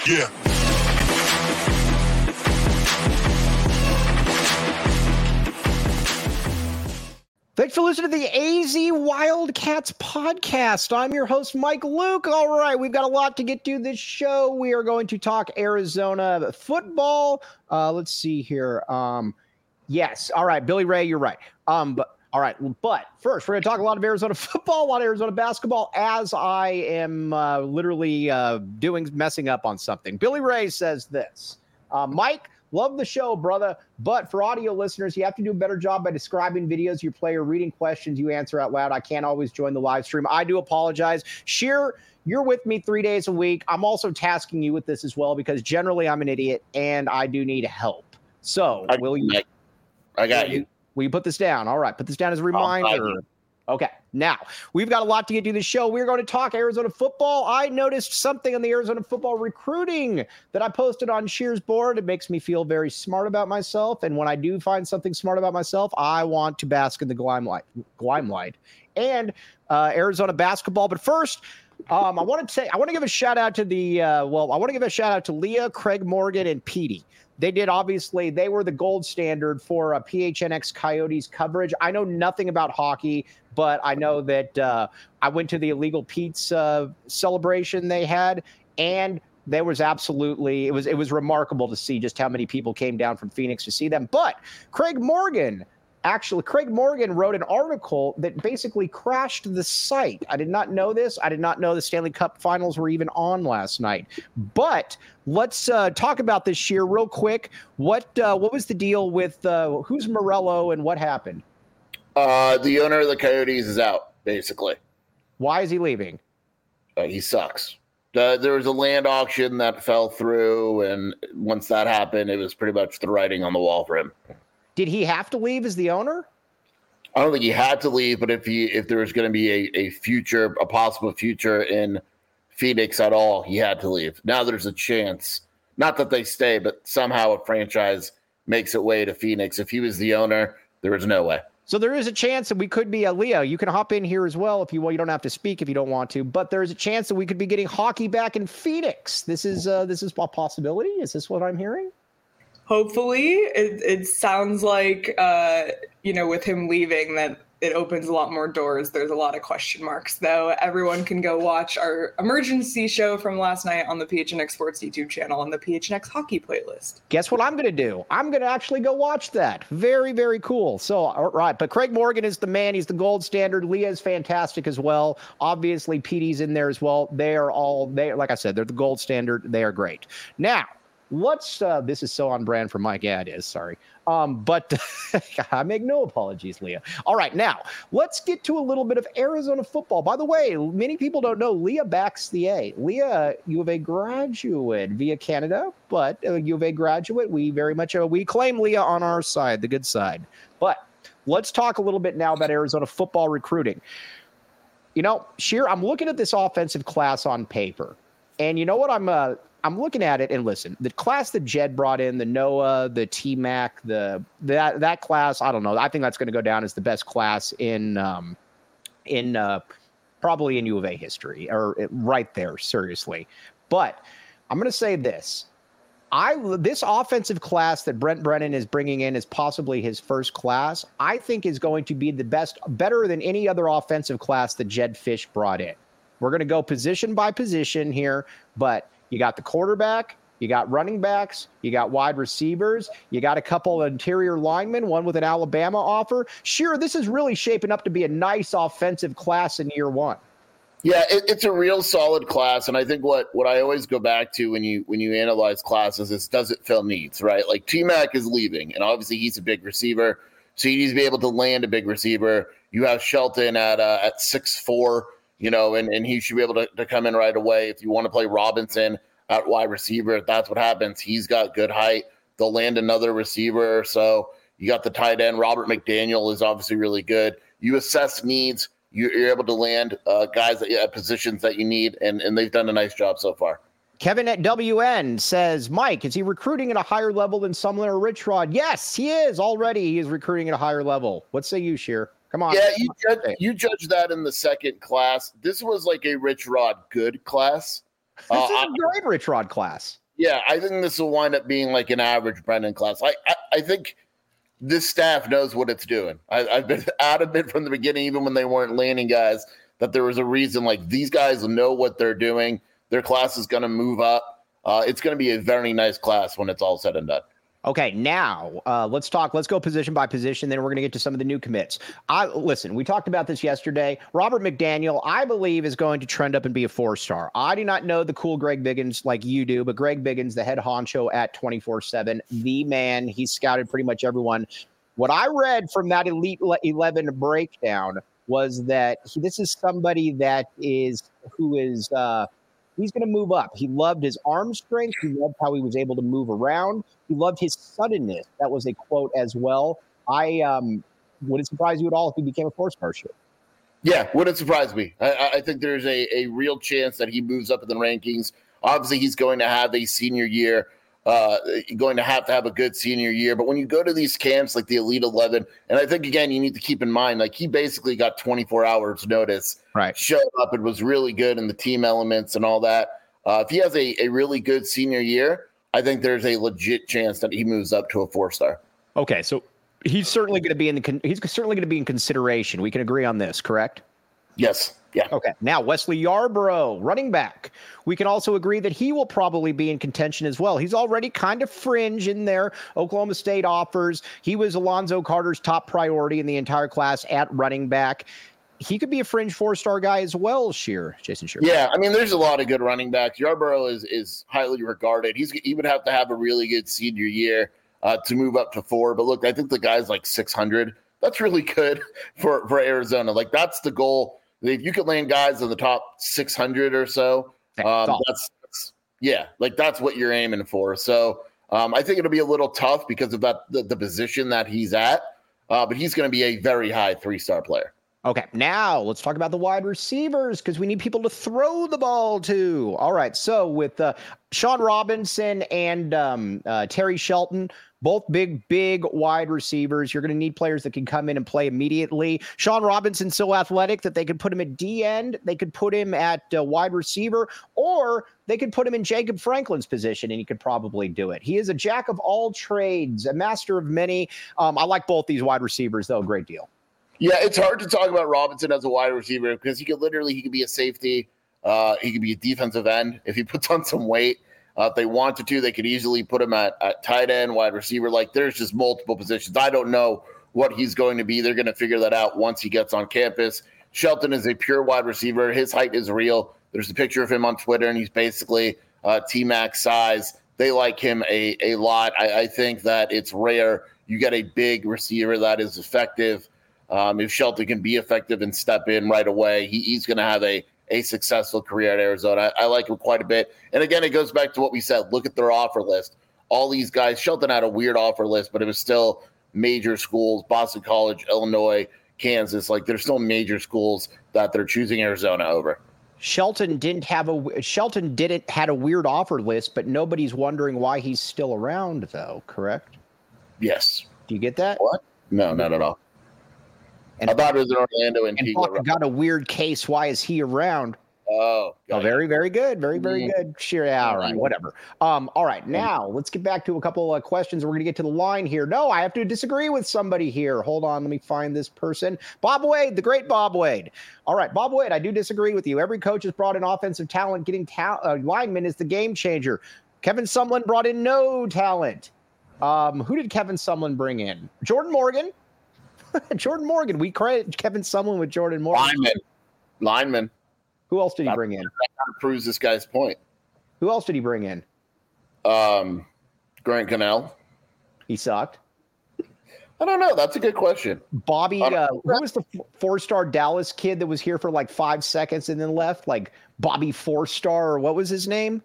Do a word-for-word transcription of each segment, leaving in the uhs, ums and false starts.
Yeah. Thanks for listening to the A Z Wildcats podcast. I'm your host, Mike Luke. All right, we've got a lot to get to this show. We are going to talk Arizona football. Uh, let's see here. Um, yes. All right, Billy Ray, you're right. Um, but all right, but first, we're going to talk a lot of Arizona football, a lot of Arizona basketball, as I am uh, literally uh, doing messing up on something. Billy Ray says this, uh, Mike, love the show, brother, but for audio listeners, you have to do a better job by describing videos you play or reading questions you answer out loud. I can't always join the live stream. I do apologize. Sheer, you're with me three days a week. I'm also tasking you with this as well because generally I'm an idiot and I do need help. So I, will you? I got you. Will you put this down? All right, put this down as a reminder. Okay, now we've got a lot to get to this show. We're going to talk Arizona football. I noticed something on the Arizona football recruiting that I posted on Shear's board. It makes me feel very smart about myself. And when I do find something smart about myself, I want to bask in the limelight, limelight. and uh, Arizona basketball. But first, um, I want to say I want to give a shout out to the uh, well, I want to give a shout out to Leah, Craig Morgan, and Petey. They did, obviously, they were the gold standard for uh, P H N X Coyotes coverage. I know nothing about hockey, but I know that uh, I went to the Illegal Pete's uh, celebration they had, and there was absolutely, it was it was remarkable to see just how many people came down from Phoenix to see them. But Craig Morgan, actually, Craig Morgan wrote an article that basically crashed the site. I did not know this. I did not know the Stanley Cup Finals were even on last night. But let's uh, talk about this year real quick. What uh, what was the deal with uh, who's Morello and what happened? Uh, the owner of the Coyotes is out, basically. Why is he leaving? Uh, he sucks. Uh, there was a land auction that fell through, and once that happened, it was pretty much the writing on the wall for him. Did he have to leave as the owner? I don't think he had to leave, but if he if there was going to be a, a future, a possible future in Phoenix at all, he had to leave. Now there's a chance, not that they stay, but somehow a franchise makes its way to Phoenix. If he was the owner, there was no way. So there is a chance that we could be a Leo. You can hop in here as well if you want. You don't have to speak if you don't want to, but there is a chance that we could be getting hockey back in Phoenix. This is uh, this is a possibility. Is this what I'm hearing? Hopefully, it, it sounds like, uh, you know, with him leaving that it opens a lot more doors. There's a lot of question marks, though. Everyone can go watch our emergency show from last night on the P H N X Sports YouTube channel and the P H N X Hockey playlist. Guess what I'm going to do? I'm going to actually go watch that. Very, very cool. So, all right. But Craig Morgan is the man. He's the gold standard. Leah is fantastic as well. Obviously, Petey's in there as well. They are all, they like I said, they're the gold standard. They are great. Now, Let's, uh, this is so on brand for Mike. Yeah, it is. Sorry. Um, but I make no apologies, Leah. All right. Now, let's get to a little bit of Arizona football. By the way, many people don't know Leah backs the A. Leah, U of A graduate via Canada, but uh, U of A graduate. We very much, uh, we claim Leah on our side, the good side. But let's talk a little bit now about Arizona football recruiting. You know, Sheer, I'm looking at this offensive class on paper. And you know what I'm uh, I'm looking at it and listen, the class that Jed brought in, the Noah, the T-Mac, the that that class, I don't know. I think that's going to go down as the best class in um, in uh, probably in U of A history or right there, seriously. But I'm going to say this. I this offensive class that Brent Brennan is bringing in is possibly his first class. I think is going to be the best, better than any other offensive class that Jed Fish brought in. We're going to go position by position here, but you got the quarterback, you got running backs, you got wide receivers, you got a couple of interior linemen, one with an Alabama offer. Sure, this is really shaping up to be a nice offensive class in year one. Yeah, it, it's a real solid class, and I think what, what I always go back to when you when you analyze classes is does it fill needs, right? Like T-Mac is leaving, and obviously he's a big receiver, so you need to be able to land a big receiver. You have Shelton at uh, at six foot four, you know, and, and he should be able to, to come in right away. If you want to play Robinson at wide receiver, if that's what happens, he's got good height. They'll land another receiver. So you got the tight end. Robert McDaniel is obviously really good. You assess needs. You're able to land uh, guys at uh, positions that you need, and, and they've done a nice job so far. Kevin at W N says, Mike, is he recruiting at a higher level than Sumner or Richrod? Yes, he is. Already he is recruiting at a higher level. What say you, Sheer? Come on. Yeah, you judge, you judge that in the second class. This was like a Rich Rod good class. This is a great Rich Rod class. Yeah, I think this will wind up being like an average Brendan class. I, I, I think this staff knows what it's doing. I, I've been adamant from the beginning, even when they weren't landing guys, that there was a reason. Like, these guys know what they're doing. Their class is going to move up. Uh, it's going to be a very nice class when it's all said and done. Okay, now uh, let's talk. Let's go position by position. Then we're going to get to some of the new commits. I listen. We talked about this yesterday. Robert McDaniel, I believe, is going to trend up and be a four-star. I do not know the cool Greg Biggins like you do, but Greg Biggins, the head honcho at twenty-four seven, the man. He's scouted pretty much everyone. What I read from that Elite eleven breakdown was that he, this is somebody that is who is. Uh, He's going to move up. He loved his arm strength. He loved how he was able to move around. He loved his suddenness. That was a quote as well. I um, would it surprise you at all if he became a four-star shooter? Yeah, wouldn't surprise me. I, I think there's a, a real chance that he moves up in the rankings. Obviously, he's going to have a senior year, uh, going to have to have a good senior year. But when you go to these camps like the Elite eleven, and I think, again, you need to keep in mind, like, he basically got twenty-four hours notice, right? Showed up and was really good in the team elements and all that. Uh, if he has a, a really good senior year, I think there's a legit chance that he moves up to a four-star. Okay, so he's certainly going to be in the con- he's certainly going to be in consideration. We can agree on this, correct? Yes. Yeah. Okay. Now, Wesley Yarbrough, running back. We can also agree that he will probably be in contention as well. He's already kind of fringe in there. Oklahoma State offers. He was Alonzo Carter's top priority in the entire class at running back. He could be a fringe four-star guy as well, Shear, Jason Shear. Yeah, I mean, there's a lot of good running backs. Yarbrough is is highly regarded. He's he would have to have a really good senior year uh, to move up to four. But look, I think the guy's like six hundred. That's really good for, for Arizona. Like, that's the goal. If you could land guys in the top six hundred or so, um, that's, that's yeah, like that's what you're aiming for. So um, I think it'll be a little tough because of that the, the position that he's at, uh, but he's going to be a very high three-star player. Okay, now let's talk about the wide receivers because we need people to throw the ball to. All right, so with uh, Sean Robinson and um, uh, Terry Shelton, both big, big wide receivers. You're going to need players that can come in and play immediately. Sean Robinson's so athletic that they could put him at D end, they could put him at uh, wide receiver, or they could put him in Jacob Franklin's position, and he could probably do it. He is a jack of all trades, a master of many. Um, I like both these wide receivers, though, a great deal. Yeah, it's hard to talk about Robinson as a wide receiver because he could literally, he could be a safety. Uh, he could be a defensive end if he puts on some weight. Uh, if they wanted to, they could easily put him at, at tight end, wide receiver. Like, there's just multiple positions. I don't know what he's going to be. They're going to figure that out once he gets on campus. Shelton is a pure wide receiver. His height is real. There's a picture of him on Twitter, and he's basically uh, T-Mac size. They like him a, a lot. I, I think that it's rare you get a big receiver that is effective. Um, if Shelton can be effective and step in right away, he, he's going to have a a successful career at Arizona. I, I like him quite a bit. And again, it goes back to what we said. Look at their offer list. All these guys, Shelton had a weird offer list, but it was still major schools, Boston College, Illinois, Kansas. Like, there's still major schools that they're choosing Arizona over. Shelton didn't have a Shelton didn't had a weird offer list, but nobody's wondering why he's still around, though, correct? Yes. Do you get that? What? No, not at all. And I thought it was in Orlando and, and got a weird case. Why is he around? Oh, oh very, very good. Very, very mm-hmm. good. Sure. Yeah, all right. Whatever. Um, all right. Now let's get back to a couple of questions. We're going to get to the line here. No, I have to disagree with somebody here. Hold on. Let me find this person. Bob Wade, the great Bob Wade. All right. Bob Wade, I do disagree with you. Every coach has brought in offensive talent. Getting ta- uh, linemen is the game changer. Kevin Sumlin brought in no talent. Um, who did Kevin Sumlin bring in? Jordan Morgan. Jordan Morgan. We credit Kevin Sumlin with Jordan Morgan. Lineman. Lineman. Who else did he bring in? That kind of proves this guy's point. Who else did he bring in? Um, Grant Cannell. He sucked. I don't know. That's a good question. Bobby, uh, who was the four-star Dallas kid that was here for like five seconds and then left? Like Bobby Four-Star, or what was his name?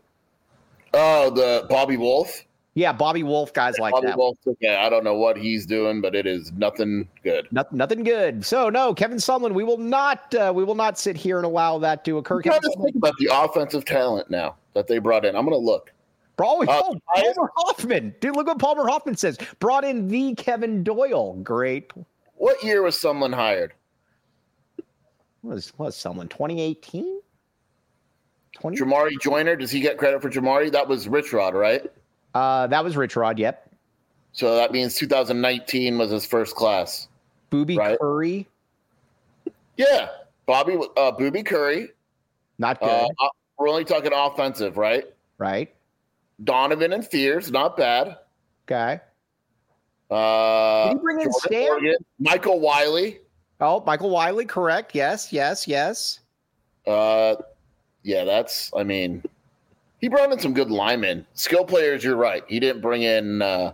Oh, the Bobby Wolf. Yeah, Bobby Wolf, guys yeah, like Bobby that. Wolf, okay, I don't know what he's doing, but it is nothing good. Not, nothing good. So no, Kevin Sumlin, we will not, uh, we will not sit here and allow that to occur. I'm trying to think about the offensive talent now that they brought in. I'm going to look. Bro, uh, oh, Palmer Hoffman, dude, look what Palmer Hoffman says. Brought in the Kevin Doyle. Great. What year was Sumlin hired? Was was Sumlin twenty eighteen? twenty? Jamari Joyner, does he get credit for Jamari? That was Rich Rod, right? Uh, that was Rich Rod, yep. So that means two thousand nineteen was his first class. Booby right? Curry. Yeah. Bobby, uh, Booby Curry. Not good. Uh, we're only talking offensive, right? Right. Donovan and Fears, not bad. Okay. Uh, Did he bring in Jordan Stan? Morgan, Michael Wiley. Oh, Michael Wiley, correct. Yes, yes, yes. Uh, yeah, that's, I mean, he brought in some good linemen. Skill players, you're right. He didn't bring in, uh,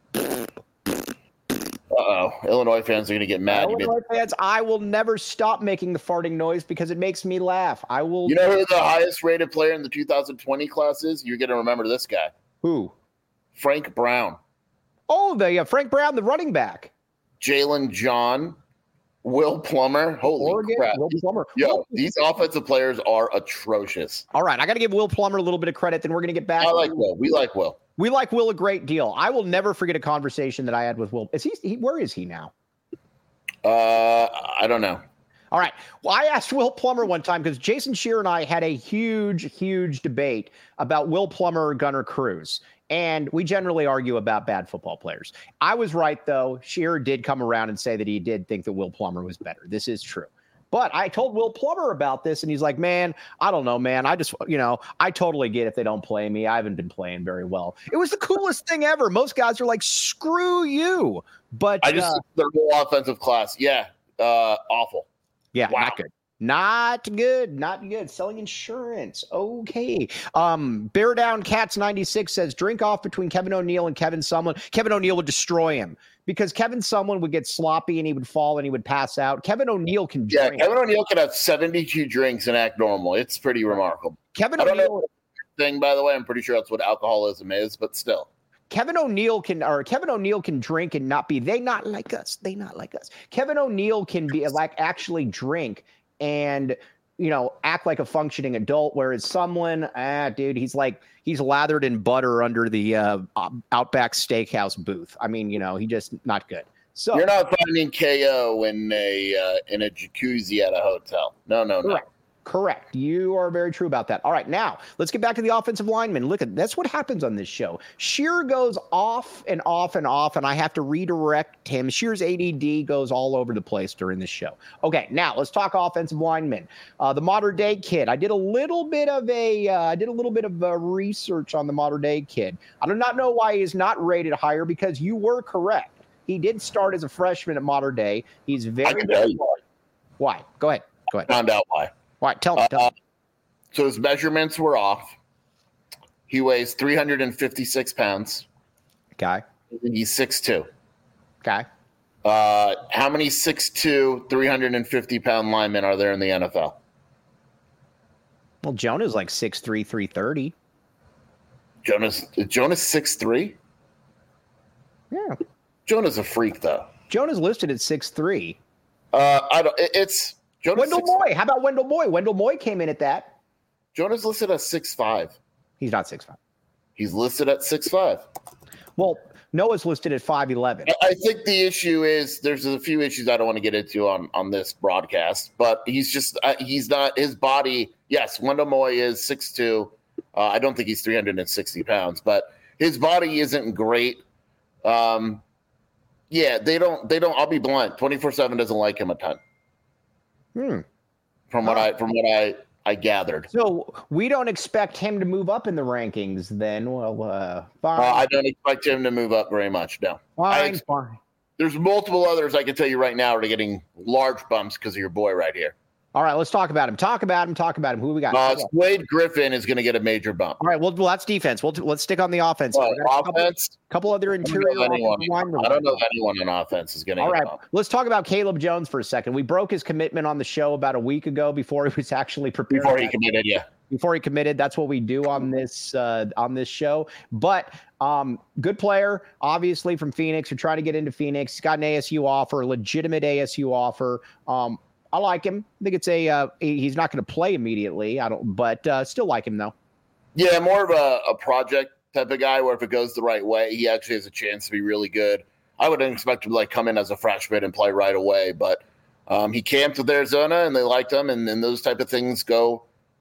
uh-oh, Illinois fans are going to get mad. Illinois fans, I will never stop making the farting noise because it makes me laugh. I will. You know who the highest rated player in the two thousand twenty class is? You're going to remember this guy. Who? Frank Brown. Oh, the uh, Frank Brown, the running back. Jalen John. Will Plummer. Holy Oregon, crap. Will Plummer. Yo, Will- these offensive players are atrocious. All right, I got to give Will Plummer a little bit of credit. Then we're going to get back. I like to- Will. We like Will. We like Will a great deal. I will never forget a conversation that I had with Will. Is he? he where is he now? Uh, I don't know. All right. Well, I asked Will Plummer one time because Jason Shear and I had a huge, huge debate about Will Plummer or Gunnar Cruz. And we generally argue about bad football players. I was right, though. Shearer did come around and say that he did think that Will Plummer was better. This is true. But I told Will Plummer about this, and he's like, man, I don't know, man. I just, you know, I totally get if they don't play me. I haven't been playing very well. It was the coolest thing ever. Most guys are like, screw you. But I just, uh, their whole offensive class. Yeah. Uh, awful. yeah, Wow. not good. Not good. Not good. Selling insurance. Okay. Um, Bear Down Cats ninety-six says drink off between Kevin O'Neill and Kevin Sumlin. Kevin O'Neill would destroy him because Kevin Sumlin would get sloppy and he would fall and he would pass out. Kevin O'Neill can Yeah. drink. Kevin O'Neill could have seventy-two drinks and act normal. It's pretty remarkable. Kevin I don't O'Neill. know the thing, by the way. I'm pretty sure that's what alcoholism is, but still. Kevin O'Neill can, or Kevin O'Neill can drink and not be. They not like us. They not like us. Kevin O'Neill can be like actually drink and, you know, act like a functioning adult, whereas someone, ah, dude, he's like, he's lathered in butter under the uh, Outback Steakhouse booth. I mean, you know, he just not good. So You're not finding K O in a uh, in a jacuzzi at a hotel. No, no, no. correct. Correct. You are very true about that. All right, now let's get back to the offensive lineman. Look at that's what happens on this show. Shear goes off and off and off, and I have to redirect him. Shear's A D D goes all over the place during this show. Okay, now let's talk offensive linemen. Uh, the modern day kid. I did a little bit of a uh, I did a little bit of uh, research on the modern day kid. I do not know why he's not rated higher because you were correct. He did start as a freshman at modern day. He's very I can tell you why. why. Go ahead. Go ahead. Found out why. All right, tell me. Tell me. Uh, so his measurements were off. He weighs three hundred fifty-six pounds. Okay. He's six two. Okay. Uh, how many six two, three hundred fifty pound linemen are there in the N F L? Well, Jonah's like six three, three thirty. Jonas, is Jonas six three? Yeah. Jonah's a freak, though. Jonah's listed at six three. Uh, I don't. It, it's Jonas. Wendell six, Moy. How about Wendell Moy? Wendell Moy came in at that. Jonas listed at six five. He's not six five. He's listed at six five. Well, Noah's listed at five eleven. I think the issue is there's a few issues I don't want to get into on, on this broadcast, but he's just uh, he's not his body. Yes, Wendell Moy is six two. Uh, I don't think he's three hundred sixty pounds, but his body isn't great. Um, yeah, they don't they don't. I'll be blunt. twenty-four seven doesn't like him a ton. Hmm. From what Oh. I from what I I gathered. So we don't expect him to move up in the rankings then. Well, uh, fine. Uh, I don't expect him to move up very much. No. fine, I- fine. There's multiple others I can tell you right now are getting large bumps because of your boy right here. All right, let's talk about him. Talk about him. Talk about him. Who we got? Uh, All Wade Griffin is going to get a major bump. right, well, well, that's defense. We'll let's stick on the offense. Uh, We got a couple, offense, couple other I don't interior know if anyone, offensive linemen. I don't know if anyone on offense is going to All get right, a bump. let's talk about Caleb Jones for a second. We broke his commitment on the show about a week ago before he was actually prepared. Before he committed, yeah. before he committed. That's what we do on this uh, on this show. But um, good player, obviously from Phoenix. We're trying to get into Phoenix. He's got an A S U offer, a legitimate A S U offer. Um, I like him. I think it's a uh, he's not going to play immediately. I don't, but uh, still like him though. Yeah, more of a, a project type of guy where if it goes the right way, he actually has a chance to be really good. I wouldn't expect him to like come in as a freshman and play right away, but um, he camped with Arizona and they liked him, and, and those type of things go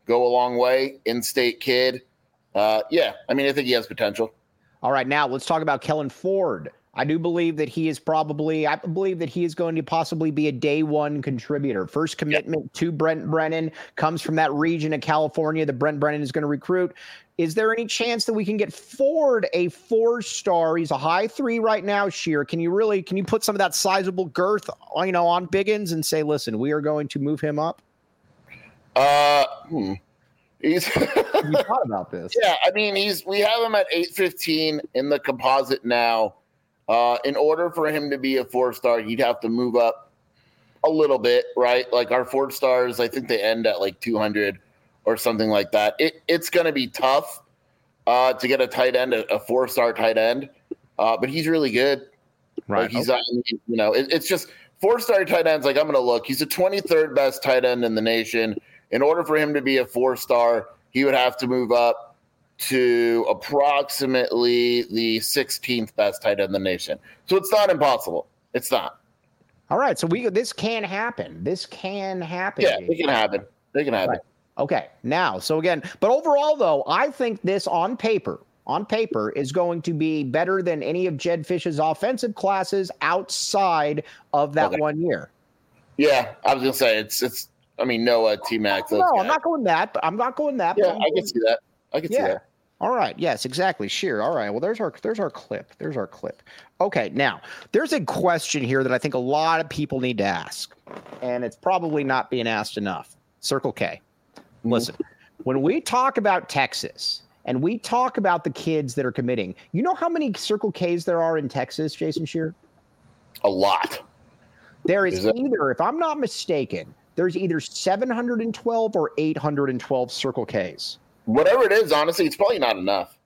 go a long way. In-state kid. Uh, yeah, I mean, I think he has potential. All right, now let's talk about Kellen Ford. I do believe that he is probably, I believe that he is going to possibly be a day one contributor. First commitment yep. to Brent Brennan comes from that region of California that Brent Brennan is going to recruit. Is there any chance that we can get Ford a four-star? He's a high three right now, Sheer. Can you really, can you put some of that sizable girth, you know, on Biggins and say, listen, we are going to move him up? Uh, hmm. He's you thought about this. Yeah, I mean, he's, we have him at eight fifteen in the composite now. Uh, in order for him to be a four-star, you'd have to move up a little bit, right? Like our four stars, I think they end at like two hundred or something like that. It, it's going to be tough uh, to get a tight end, a, a four-star tight end, uh, but he's really good. Right. Like he's, okay. uh, you know, it, it's just four-star tight ends. Like I'm going to look. He's the twenty-third best tight end in the nation. In order for him to be a four-star, he would have to move up to approximately the sixteenth best tight end in the nation. So it's not impossible. It's not. All right. So we this can happen. This can happen. Yeah, it can happen. It can happen. Right. Okay. Now, so again, but overall, though, I think this on paper, on paper is going to be better than any of Jedd Fisch's offensive classes outside of that okay. one year. Yeah, I was going to say it's, it's, I mean, Noah, T-Mac. No, guys. I'm not going that, but I'm not going that. Yeah, I can see that. I can yeah. see that. All right. Yes, exactly. Sure. All right. Well, there's our there's our clip. There's our clip. Okay. Now, there's a question here that I think a lot of people need to ask, and it's probably not being asked enough. Circle K. Mm-hmm. Listen, when we talk about Texas and we talk about the kids that are committing, you know how many Circle Ks there are in Texas, Jason Shear? A lot. There is, is either, if I'm not mistaken, there's either seven hundred twelve or eight hundred twelve Circle Ks. Whatever it is, honestly, it's probably not enough.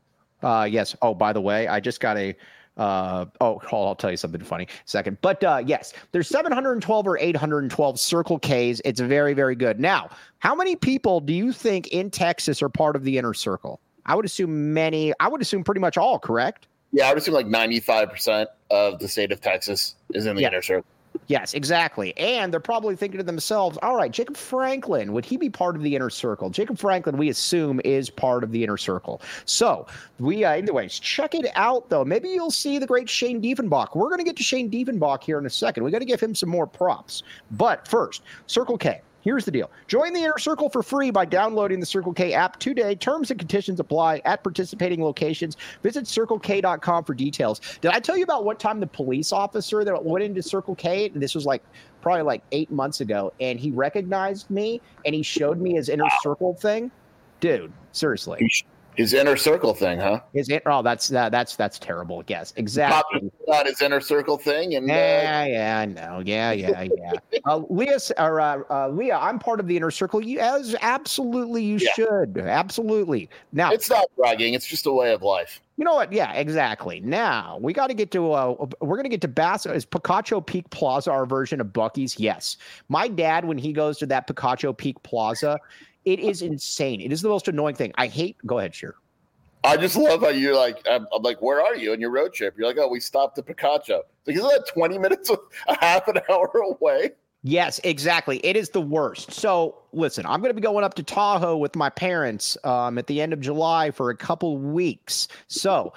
Uh, yes. Oh, by the way, I just got a, uh, oh, I'll tell you something funny in a second. But uh, yes, there's seven hundred twelve or eight hundred twelve Circle Ks. It's very, very good. Now, how many people do you think in Texas are part of the inner circle? I would assume many. I would assume pretty much all, correct? Yeah, I would assume like ninety-five percent of the state of Texas is in the yeah. inner circle. Yes, exactly. And they're probably thinking to themselves, all right, Jacob Franklin, would he be part of the inner circle? Jacob Franklin, we assume, is part of the inner circle. So we, uh, anyways, check it out, though. Maybe you'll see the great Shane Diefenbach. We're going to get to Shane Diefenbach here in a second. We got to give him some more props. But first, Circle K. Here's the deal. Join the Inner Circle for free by downloading the Circle K app today. Terms and conditions apply at participating locations. Visit circle k dot com for details. Did I tell you about what time the police officer that went into Circle K, and this was like probably like eight months ago, and he recognized me and he showed me his Inner Circle thing? Dude, seriously. His inner circle thing, huh? His it, oh, that's uh, that's that's terrible. Yes, exactly. Not his inner circle thing, and yeah, uh... yeah, I know. Yeah, yeah, yeah. uh, Leah, or uh, uh, Leah, I'm part of the inner circle. You, as absolutely, you yeah. should, absolutely. Now, it's not bragging; it's just a way of life. You know what? Yeah, exactly. Now we got to get to. Uh, we're gonna get to Bass. Is Picacho Peak Plaza our version of Buc-ee's? Yes. My dad, when he goes to that Picacho Peak Plaza. It is insane. It is the most annoying thing. I hate. Go ahead, Sheer. I just love how you're like, I'm, I'm like, where are you on your road trip? You're like, oh, we stopped at Picacho. Like, isn't that twenty minutes, a half an hour away? Yes, exactly. It is the worst. So listen, I'm going to be going up to Tahoe with my parents um, at the end of July for a couple weeks. So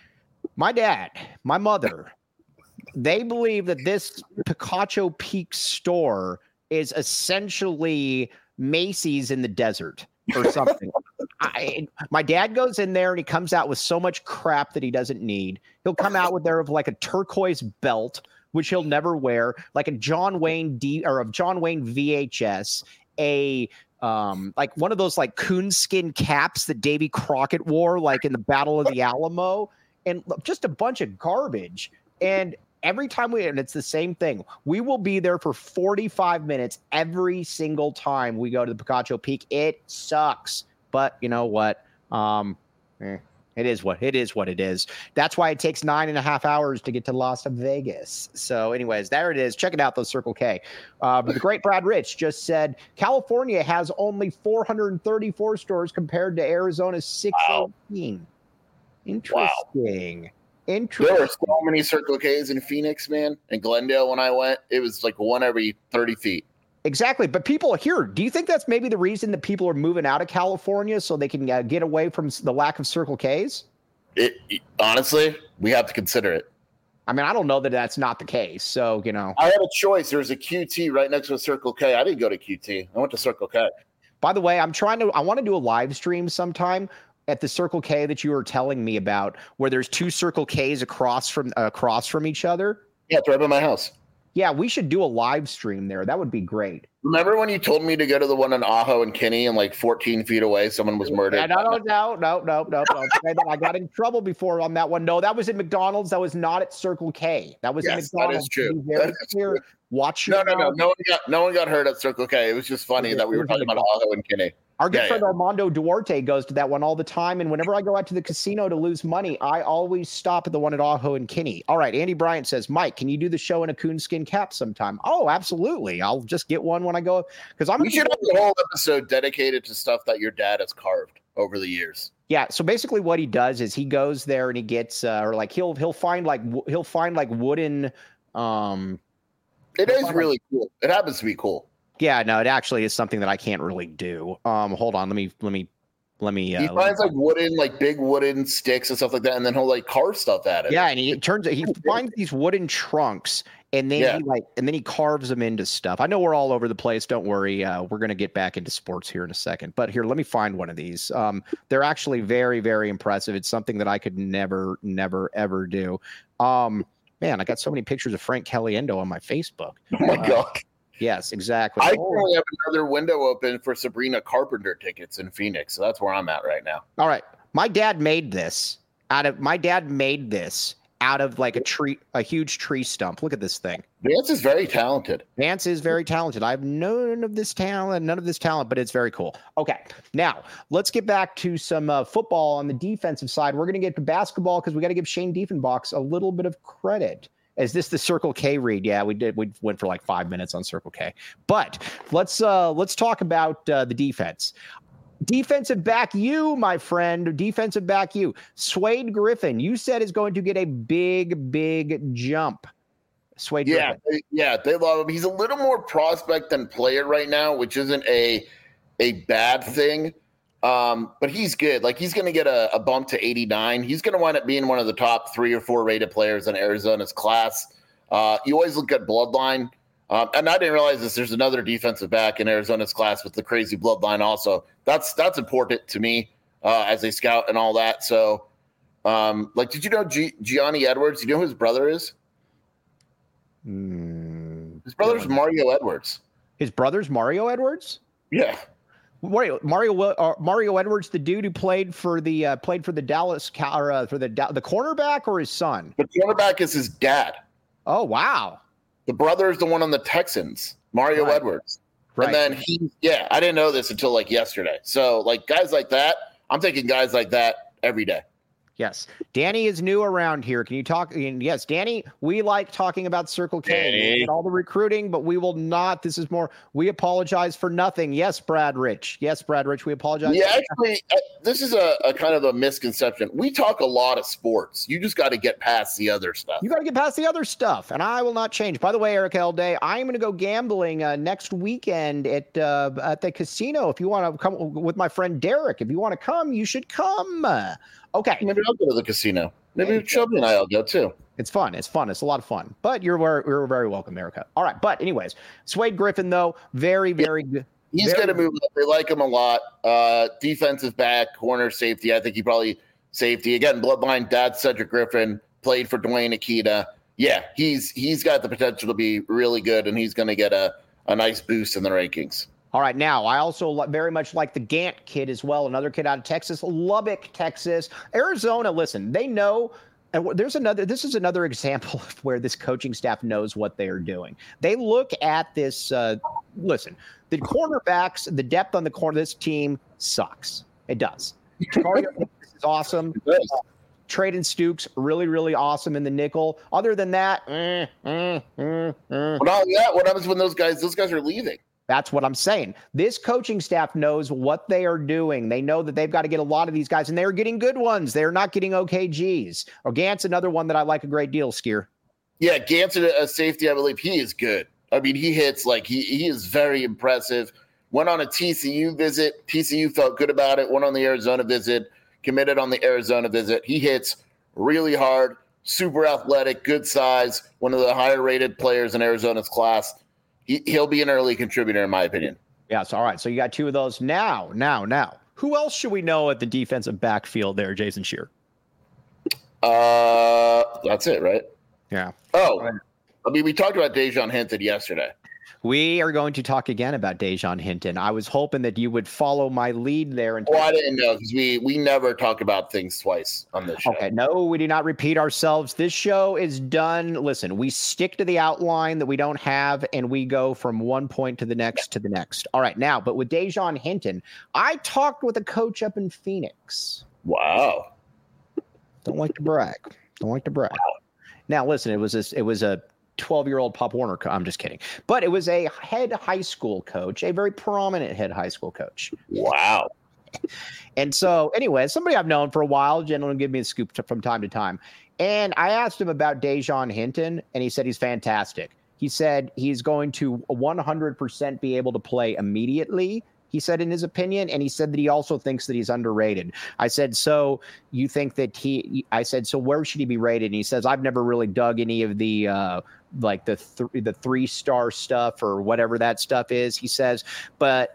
my dad, my mother, they believe that this Picacho Peak store is essentially Macy's in the desert or something. I, my dad goes in there and he comes out with so much crap that he doesn't need. He'll come out with there of like a turquoise belt, which he'll never wear, like a John Wayne D or of John Wayne V H S, a um like one of those like coonskin caps that Davy Crockett wore, like in the Battle of the Alamo, and just a bunch of garbage. And every time we, and it's the same thing, we will be there for forty-five minutes every single time we go to the Picacho Peak. It sucks, but you know what? Um, eh, it is what it is. What it is. That's why it takes nine and a half hours to get to Las Vegas. So, anyways, there it is. Check it out, those Circle K. Uh, but the great Brad Rich just said California has only four hundred thirty-four stores compared to Arizona's six eighteen. Wow. Interesting. Wow. There were so many Circle K's in Phoenix, man. In Glendale, when I went, it was like one every thirty feet. Exactly. But people here, do you think that's maybe the reason that people are moving out of California so they can uh, get away from the lack of Circle Ks? It, it honestly, we have to consider it. I mean, I don't know that that's not the case. So, you know, I had a choice. There was a Q T right next to a Circle K. I didn't go to Q T. I went to Circle K. By the way, I'm trying to, I want to do a live stream sometime at the Circle K that you were telling me about, where there's two Circle Ks across from, uh, across from each other. Yeah, it's right by my house. Yeah, we should do a live stream there. That would be great. Remember when you told me to go to the one in Ajo and Kinney, and like fourteen feet away, someone was murdered? Yeah, no, no, no, no, no, no, no. I got in trouble before on that one. No, that was at McDonald's. That was not at Circle K. That was yes, at McDonald's. That is true. Very that is clear. true. Watch no, your no, no, mouth. no one got no one got hurt at Circle K. It was just funny Okay, that we were talking about Ajo and Kinney. Our good yeah, friend yeah. Armando Duarte goes to that one all the time, and whenever I go out to the casino to lose money, I always stop at the one at Ajo and Kinney. All right, Andy Bryant says, Mike, can you do the show in a coonskin cap sometime? Oh, absolutely. I'll just get one when I go, because I'm. We should have a whole episode dedicated to stuff that your dad has carved over the years. Yeah, so basically what he does is he goes there and he gets, uh, or like he'll he'll find like he'll find like wooden. Um, it is really like, cool. It happens to be cool. Yeah, no, it actually is something that I can't really do. Um, hold on, let me let me let me. Uh, he finds like wooden, like big wooden sticks and stuff like that, and then he'll like carve stuff at it. Yeah, and he turns he finds these wooden trunks, and then yeah. he like and then he carves them into stuff. I know we're all over the place. Don't worry, uh, we're gonna get back into sports here in a second. But here, let me find one of these. Um, they're actually very very impressive. It's something that I could never never ever do. Um, man, I got so many pictures of Frank Caliendo on my Facebook. Oh my uh, god. Yes, exactly. I oh. currently have another window open for Sabrina Carpenter tickets in Phoenix, so that's where I'm at right now. All right, my dad made this out of my dad made this out of like a tree, a huge tree stump. Look at this thing. Vance is very talented. Vance is very talented. I have none of this talent, none of this talent, but it's very cool. Okay, now let's get back to some uh, football on the defensive side. We're going to get to basketball because we got to give Shane Diefenbach a little bit of credit. Is this the Circle K read? Yeah, we did. We went for like five minutes on Circle K. But let's uh, let's talk about uh, the defense. Defensive back you, my friend. Defensive back you. Swade Griffin, you said is going to get a big, big jump. Swade yeah, Griffin. They, yeah, they love him. He's a little more prospect than player right now, which isn't a a bad thing. Um, but he's good. Like he's going to get a, a bump to eighty-nine. He's going to wind up being one of the top three or four rated players in Arizona's class. Uh, you always look at bloodline. Um, and I didn't realize this. There's another defensive back in Arizona's class with the crazy bloodline also. That's that's important to me uh, as a scout and all that. So, um, like, did you know G- Gianni Edwards? Do you know who his brother is? Mm, his brother's Mario Edwards. His brother's Mario Edwards? Yeah. Mario Mario uh, Mario Edwards, the dude who played for the uh, played for the Dallas Cow- or, uh, for the the cornerback, or his son? The cornerback is his dad. Oh wow! The brother is the one on the Texans, Mario right. Edwards. Right. And then he, yeah, I didn't know this until like yesterday. So like guys like that, I'm taking guys like that every day. Yes. Danny is new around here. Can you talk? Yes, Danny, we like talking about Circle K and all the recruiting, but we will not. This is more, we apologize for nothing. Yes, Brad Rich. Yes, Brad Rich, we apologize. Yeah, actually, this is a, a kind of a misconception. We talk a lot of sports. You just got to get past the other stuff. You got to get past the other stuff, and I will not change. By the way, Eric Elday, I'm going to go gambling uh, next weekend at uh, at the casino. If you want to come with my friend Derek, if you want to come, you should come. Okay. Maybe I'll go to the casino. Maybe Shelby and I'll go too. It's fun. It's fun. It's a lot of fun. But you're you're very welcome, Erica. All right. But anyways, Swade Griffin, though, very, very good. He's going to move up. They like him a lot. Uh, defensive back, corner, safety. I think he probably safety. Again, bloodline, dad Cedric Griffin, played for Dwayne Akita. Yeah, he's he's got the potential to be really good, and he's going to get a, a nice boost in the rankings. All right, now, I also very much like the Gant kid as well, another kid out of Texas, Lubbock, Texas. Arizona, listen, they know, and there's another, this is another example of where this coaching staff knows what they are doing. They look at this, uh, listen, the cornerbacks, the depth on the corner, this team sucks. It does. is awesome. It does. Uh, Traden Stukes, really, really awesome in the nickel. Other than that, eh, eh, eh, eh. Well, yeah, what happens when those guys, those guys are leaving? That's what I'm saying. This coaching staff knows what they are doing. They know that they've got to get a lot of these guys, and they're getting good ones. They're not getting O K Gs. Or Gant's another one that I like a great deal, Skier. Yeah, Gant's a safety, I believe. He is good. I mean, he hits like he he is very impressive. Went on a T C U visit. T C U felt good about it. Went on the Arizona visit. Committed on the Arizona visit. He hits really hard, super athletic, good size. One of the higher rated players in Arizona's class. He, he'll be an early contributor, in my opinion. Yes. All right. So you got two of those now. Now. Now. Who else should we know at the defensive backfield there, Jason Scheer? Uh, that's it, right? Yeah. Oh, I mean, we talked about Dejon Hinton yesterday. We are going to talk again about Dejon Hinton. I was hoping that you would follow my lead there. And well, I didn't know because we, we never talk about things twice on this show. Okay, no, we do not repeat ourselves. This show is done. Listen, we stick to the outline that we don't have, and we go from one point to the next to the next. All right, now, but with Dejon Hinton, I talked with a coach up in Phoenix. Wow. Don't like to brag. Don't like to brag. Now, listen, it was a, it was a twelve-year-old Pop Warner. Co- I'm just kidding. But it was a head high school coach, a very prominent head high school coach. Wow. And so, anyway, somebody I've known for a while, gentlemen give me a scoop t- from time to time. And I asked him about Dejon Hinton, and he said he's fantastic. He said he's going to one hundred percent be able to play immediately, he said in his opinion, and he said that he also thinks that he's underrated. I said, so you think that he, I said, so where should he be rated? And he says, I've never really dug any of the, uh, like the, th- the three-star stuff or whatever that stuff is, he says, but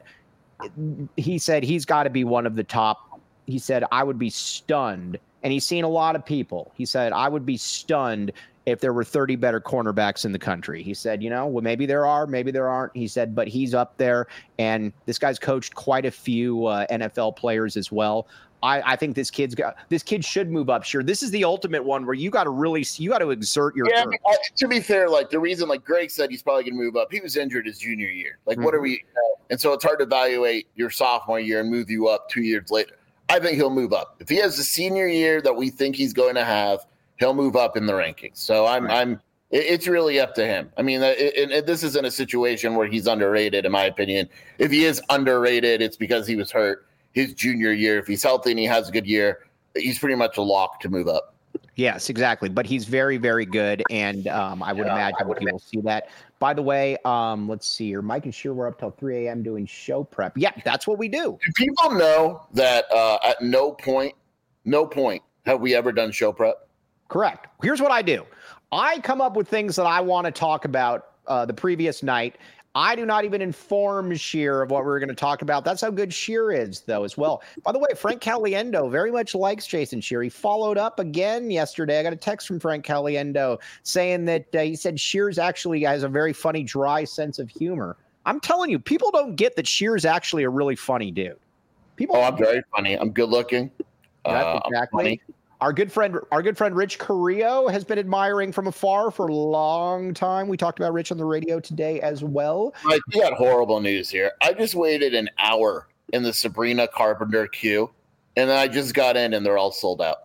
he said he's got to be one of the top. He said, I would be stunned. And he's seen a lot of people. He said, I would be stunned if there were thirty better cornerbacks in the country. He said, you know, well, maybe there are, maybe there aren't. He said, but he's up there. And this guy's coached quite a few uh, N F L players as well. I, I think this kid's got, this kid should move up. Sure. This is the ultimate one where you got to really, you got to exert your. Yeah, uh, to be fair, like the reason, like Greg said, he's probably going to move up. He was injured his junior year. Like, mm-hmm. what are we? Uh, and so it's hard to evaluate your sophomore year and move you up two years later. I think he'll move up. If he has the senior year that we think he's going to have, he'll move up in the rankings. So I'm, right. I'm, it, it's really up to him. I mean, it, it, it, this isn't a situation where he's underrated, in my opinion. If he is underrated, it's because he was hurt his junior year. If he's healthy and he has a good year, he's pretty much a lock to move up. Yes, exactly. But he's very, very good. And um, I would yeah, imagine I would we will see that. By the way, um, let's see here. Mike and Sheer were up till three a.m. doing show prep. Yeah, that's what we do. Do people know that uh, at no point, no point have we ever done show prep? Correct. Here's what I do. I come up with things that I want to talk about uh, the previous night. I do not even inform Sheer of what we're going to talk about. That's how good Sheer is, though, as well. By the way, Frank Caliendo very much likes Jason Sheer. He followed up again yesterday. I got a text from Frank Caliendo saying that uh, he said Sheer's actually has a very funny, dry sense of humor. I'm telling you, people don't get that Sheer's actually a really funny dude. People. Oh, I'm very funny. I'm good looking. That's uh, exactly. Our good friend, our good friend Rich Carrillo has been admiring from afar for a long time. We talked about Rich on the radio today as well. Mike, we got horrible news here. I just waited an hour in the Sabrina Carpenter queue, and then I just got in, and they're all sold out.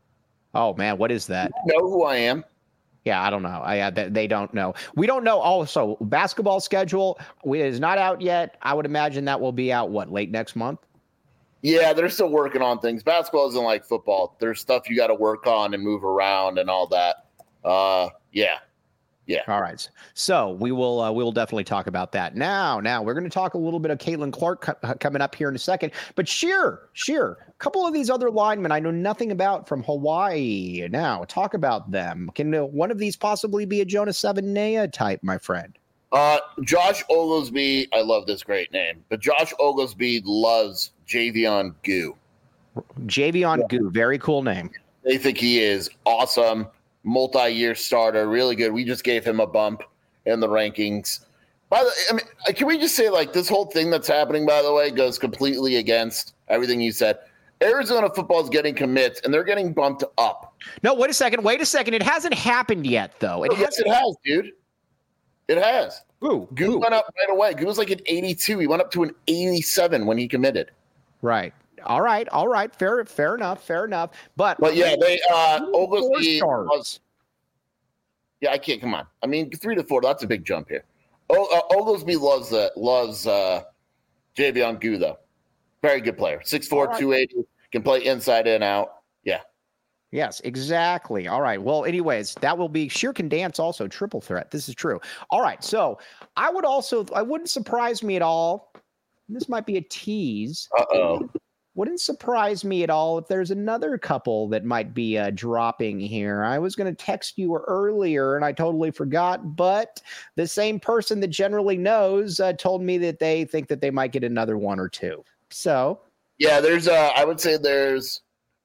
Oh man, what is that? You know who I am? Yeah, I don't know. I uh, they don't know. We don't know. Also, basketball schedule is not out yet. I would imagine that will be out what late next month. Yeah, they're still working on things. Basketball isn't like football. There's stuff you got to work on and move around and all that. Uh, yeah, yeah. All right. So we will uh, we will definitely talk about that. Now, now we're going to talk a little bit of Caitlin Clark co- coming up here in a second. But Sheer, Sheer, a couple of these other linemen I know nothing about from Hawaii. Now, talk about them. Can uh, one of these possibly be a Jonas Savaiinaea type, my friend? Uh, Josh Oglesby, I love this great name, but Josh Oglesby loves Javion Goo. Javion Goo, very cool name. They think he is awesome, multi-year starter, really good. We just gave him a bump in the rankings. By the, I mean, can we just say, like, this whole thing that's happening, by the way, goes completely against everything you said. Arizona football is getting commits, and they're getting bumped up. No, wait a second. Wait a second. It hasn't happened yet, though. It oh, yes, it has, dude. It has. Ooh, Goo ooh. went up right away. Goo was like an eighty-two. He went up to an eighty-seven when he committed. Right. All right. All right. Fair. Fair enough. Fair enough. But but yeah, they uh, Oglesby was. Yeah, I can't. Come on. I mean, three to four. That's a big jump here. O, uh, Oglesby loves uh, loves uh, Javion Goo though. Very good player. six four, right. two eighty. Can play inside and out. Yeah. Yes, exactly. All right. Well, anyways, that will be Sheer can dance also triple threat. This is true. All right. So I would also, I wouldn't surprise me at all. This might be a tease. Uh-oh. Wouldn't surprise me at all if there's another couple that might be uh, dropping here. I was going to text you earlier and I totally forgot, but the same person that generally knows uh, told me that they think that they might get another one or two. So. Yeah, there's, uh, I would say there's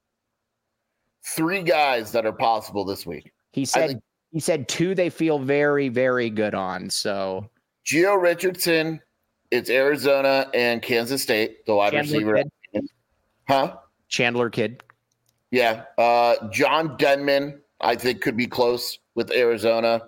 three guys that are possible this week. He said, think- he said two they feel very, very good on. So. Gio Richardson, it's Arizona and Kansas State, the wide Chandler receiver. Kid. Huh? Chandler Kid. Yeah. Uh, John Denman, I think, could be close with Arizona.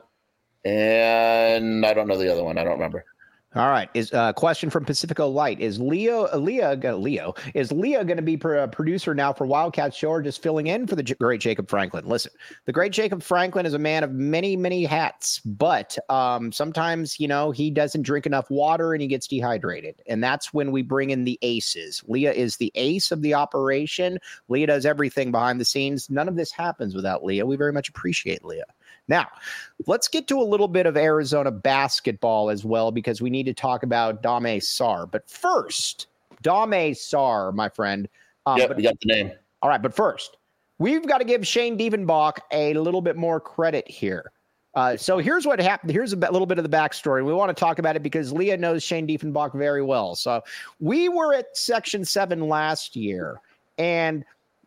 And I don't know the other one. I don't remember. All right. Is a uh, question from Pacifico Light. Is Leo, uh, Leah, uh, Leo, is Leah going to be pro- producer now for Wildcat Show or just filling in for the J- great Jacob Franklin? Listen, the great Jacob Franklin is a man of many, many hats, but um, sometimes, you know, he doesn't drink enough water and he gets dehydrated. And that's when we bring in the aces. Leah is the ace of the operation. Leah does everything behind the scenes. None of this happens without Leah. We very much appreciate Leah. Now, let's get to a little bit of Arizona basketball as well, because we need to talk about Dame Sarr. But first, Dame Sarr, my friend. Um, Yep, but, we got the name. all right, but first, we've got to give Shane Diefenbach a little bit more credit here. Uh, so here's what happened. Here's a b- little bit of the backstory. We want to talk about it because Leah knows Shane Diefenbach very well. So we were at Section seven last year, and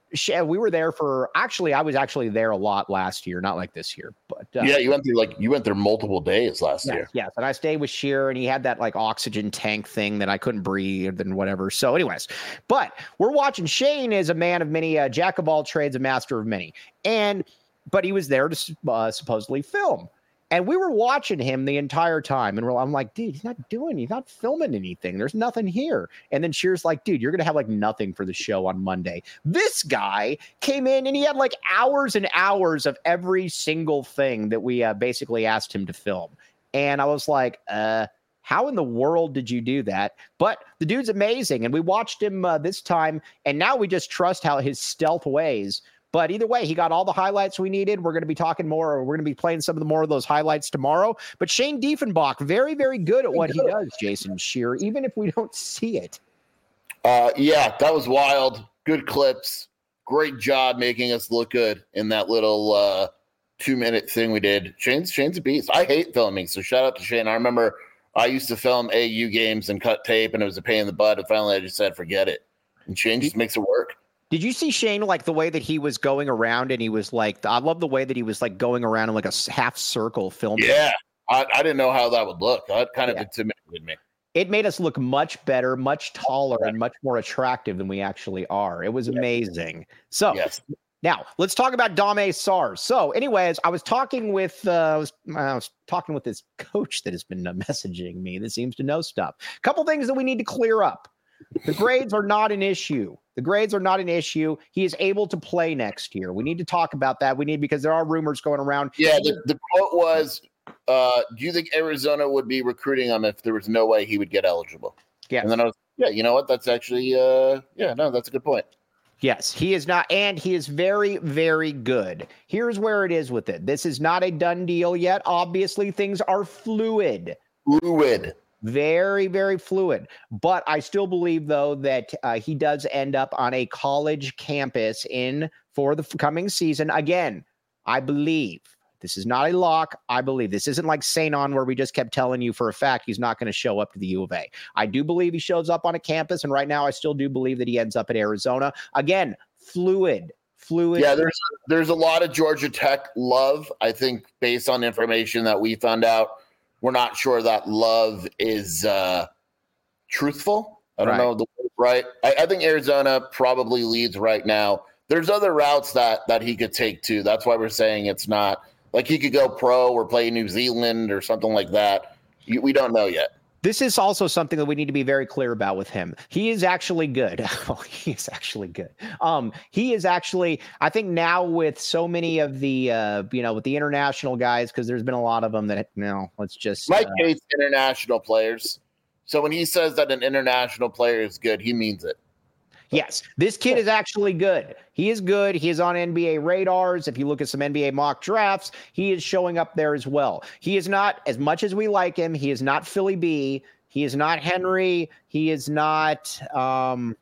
we were there for actually I was actually there a lot last year, not like this year, but uh, yeah, you went through like you went there multiple days last yes, year. Yes, and I stayed with Sheer, and he had that like oxygen tank thing that I couldn't breathe and whatever. So, anyways, but we're watching. Shane is a man of many, uh, jack of all trades, a master of many, and but he was there to uh, supposedly film. And we were watching him the entire time. And we're, I'm like, dude, he's not doing, he's not filming anything. There's nothing here. And then Sheer's like, dude, you're going to have like nothing for the show on Monday. This guy came in and he had like hours and hours of every single thing that we uh, basically asked him to film. And I was like, uh, how in the world did you do that? But the dude's amazing. And we watched him uh, this time. And now we just trust how his stealth ways. But either way, he got all the highlights we needed. We're going to be talking more. We're going to be playing some of the more of those highlights tomorrow. But Shane Diefenbach, very, very good at what he does, Jason Shearer, even if we don't see it. Uh, yeah, that was wild. Good clips. Great job making us look good in that little uh, two-minute thing we did. Shane's Shane's a beast. I hate filming, so shout out to Shane. I remember I used to film A U games and cut tape, and it was a pain in the butt. And finally, I just said, forget it. And Shane just makes it work. Did you see Shane, like the way that he was going around and he was like, I love the way that he was like going around in like a half circle filming. Yeah. I, I didn't know how that would look. That kind of Yeah. intimidated me. It made us look much better, much taller, and much more attractive than we actually are. It was amazing. So Yes. now let's talk about Dame Sarr. So anyways, I was talking with, uh, I, was, I was talking with this coach that has been uh, messaging me that seems to know stuff. A couple things that we need to clear up. The grades are not an issue. The grades are not an issue. He is able to play next year. We need to talk about that. We need, because there are rumors going around. Yeah, the, the quote was, uh, do you think Arizona would be recruiting him if there was no way he would get eligible? Yeah. And then I was, yeah, you know what? That's actually, uh, yeah, no, that's a good point. Yes, he is not, and he is very, very good. Here's where it is with it. This is not a done deal yet. Obviously, things are fluid. Fluid. Very, very fluid. But I still believe, though, that uh, he does end up on a college campus in for the coming season. Again, I believe. This is not a lock. I believe. This isn't like Saint On where we just kept telling you for a fact he's not going to show up to the U of A. I do believe he shows up on a campus, and right now I still do believe that he ends up at Arizona. Again, fluid. Fluid. Yeah, there's there's a lot of Georgia Tech love. I think based on information that we found out, we're not sure that love is uh, truthful. I don't Right. know the word right. I, I think Arizona probably leads right now. There's other routes that that he could take too. That's why we're saying it's not like he could go pro or play New Zealand or something like that. You, we don't know yet. This is also something that we need to be very clear about with him. He is actually good. Oh, he is actually good. Um, he is actually, I think now with so many of the, uh, you know, with the international guys, because there's been a lot of them that, you know, let's just. Mike uh, hates international players. So when he says that an international player is good, he means it. Yes, this kid is actually good. He is good. He is on N B A radars. If you look at some N B A mock drafts, he is showing up there as well. He is not, as much as we like him, he is not Philly B. He is not Henry. He is not um,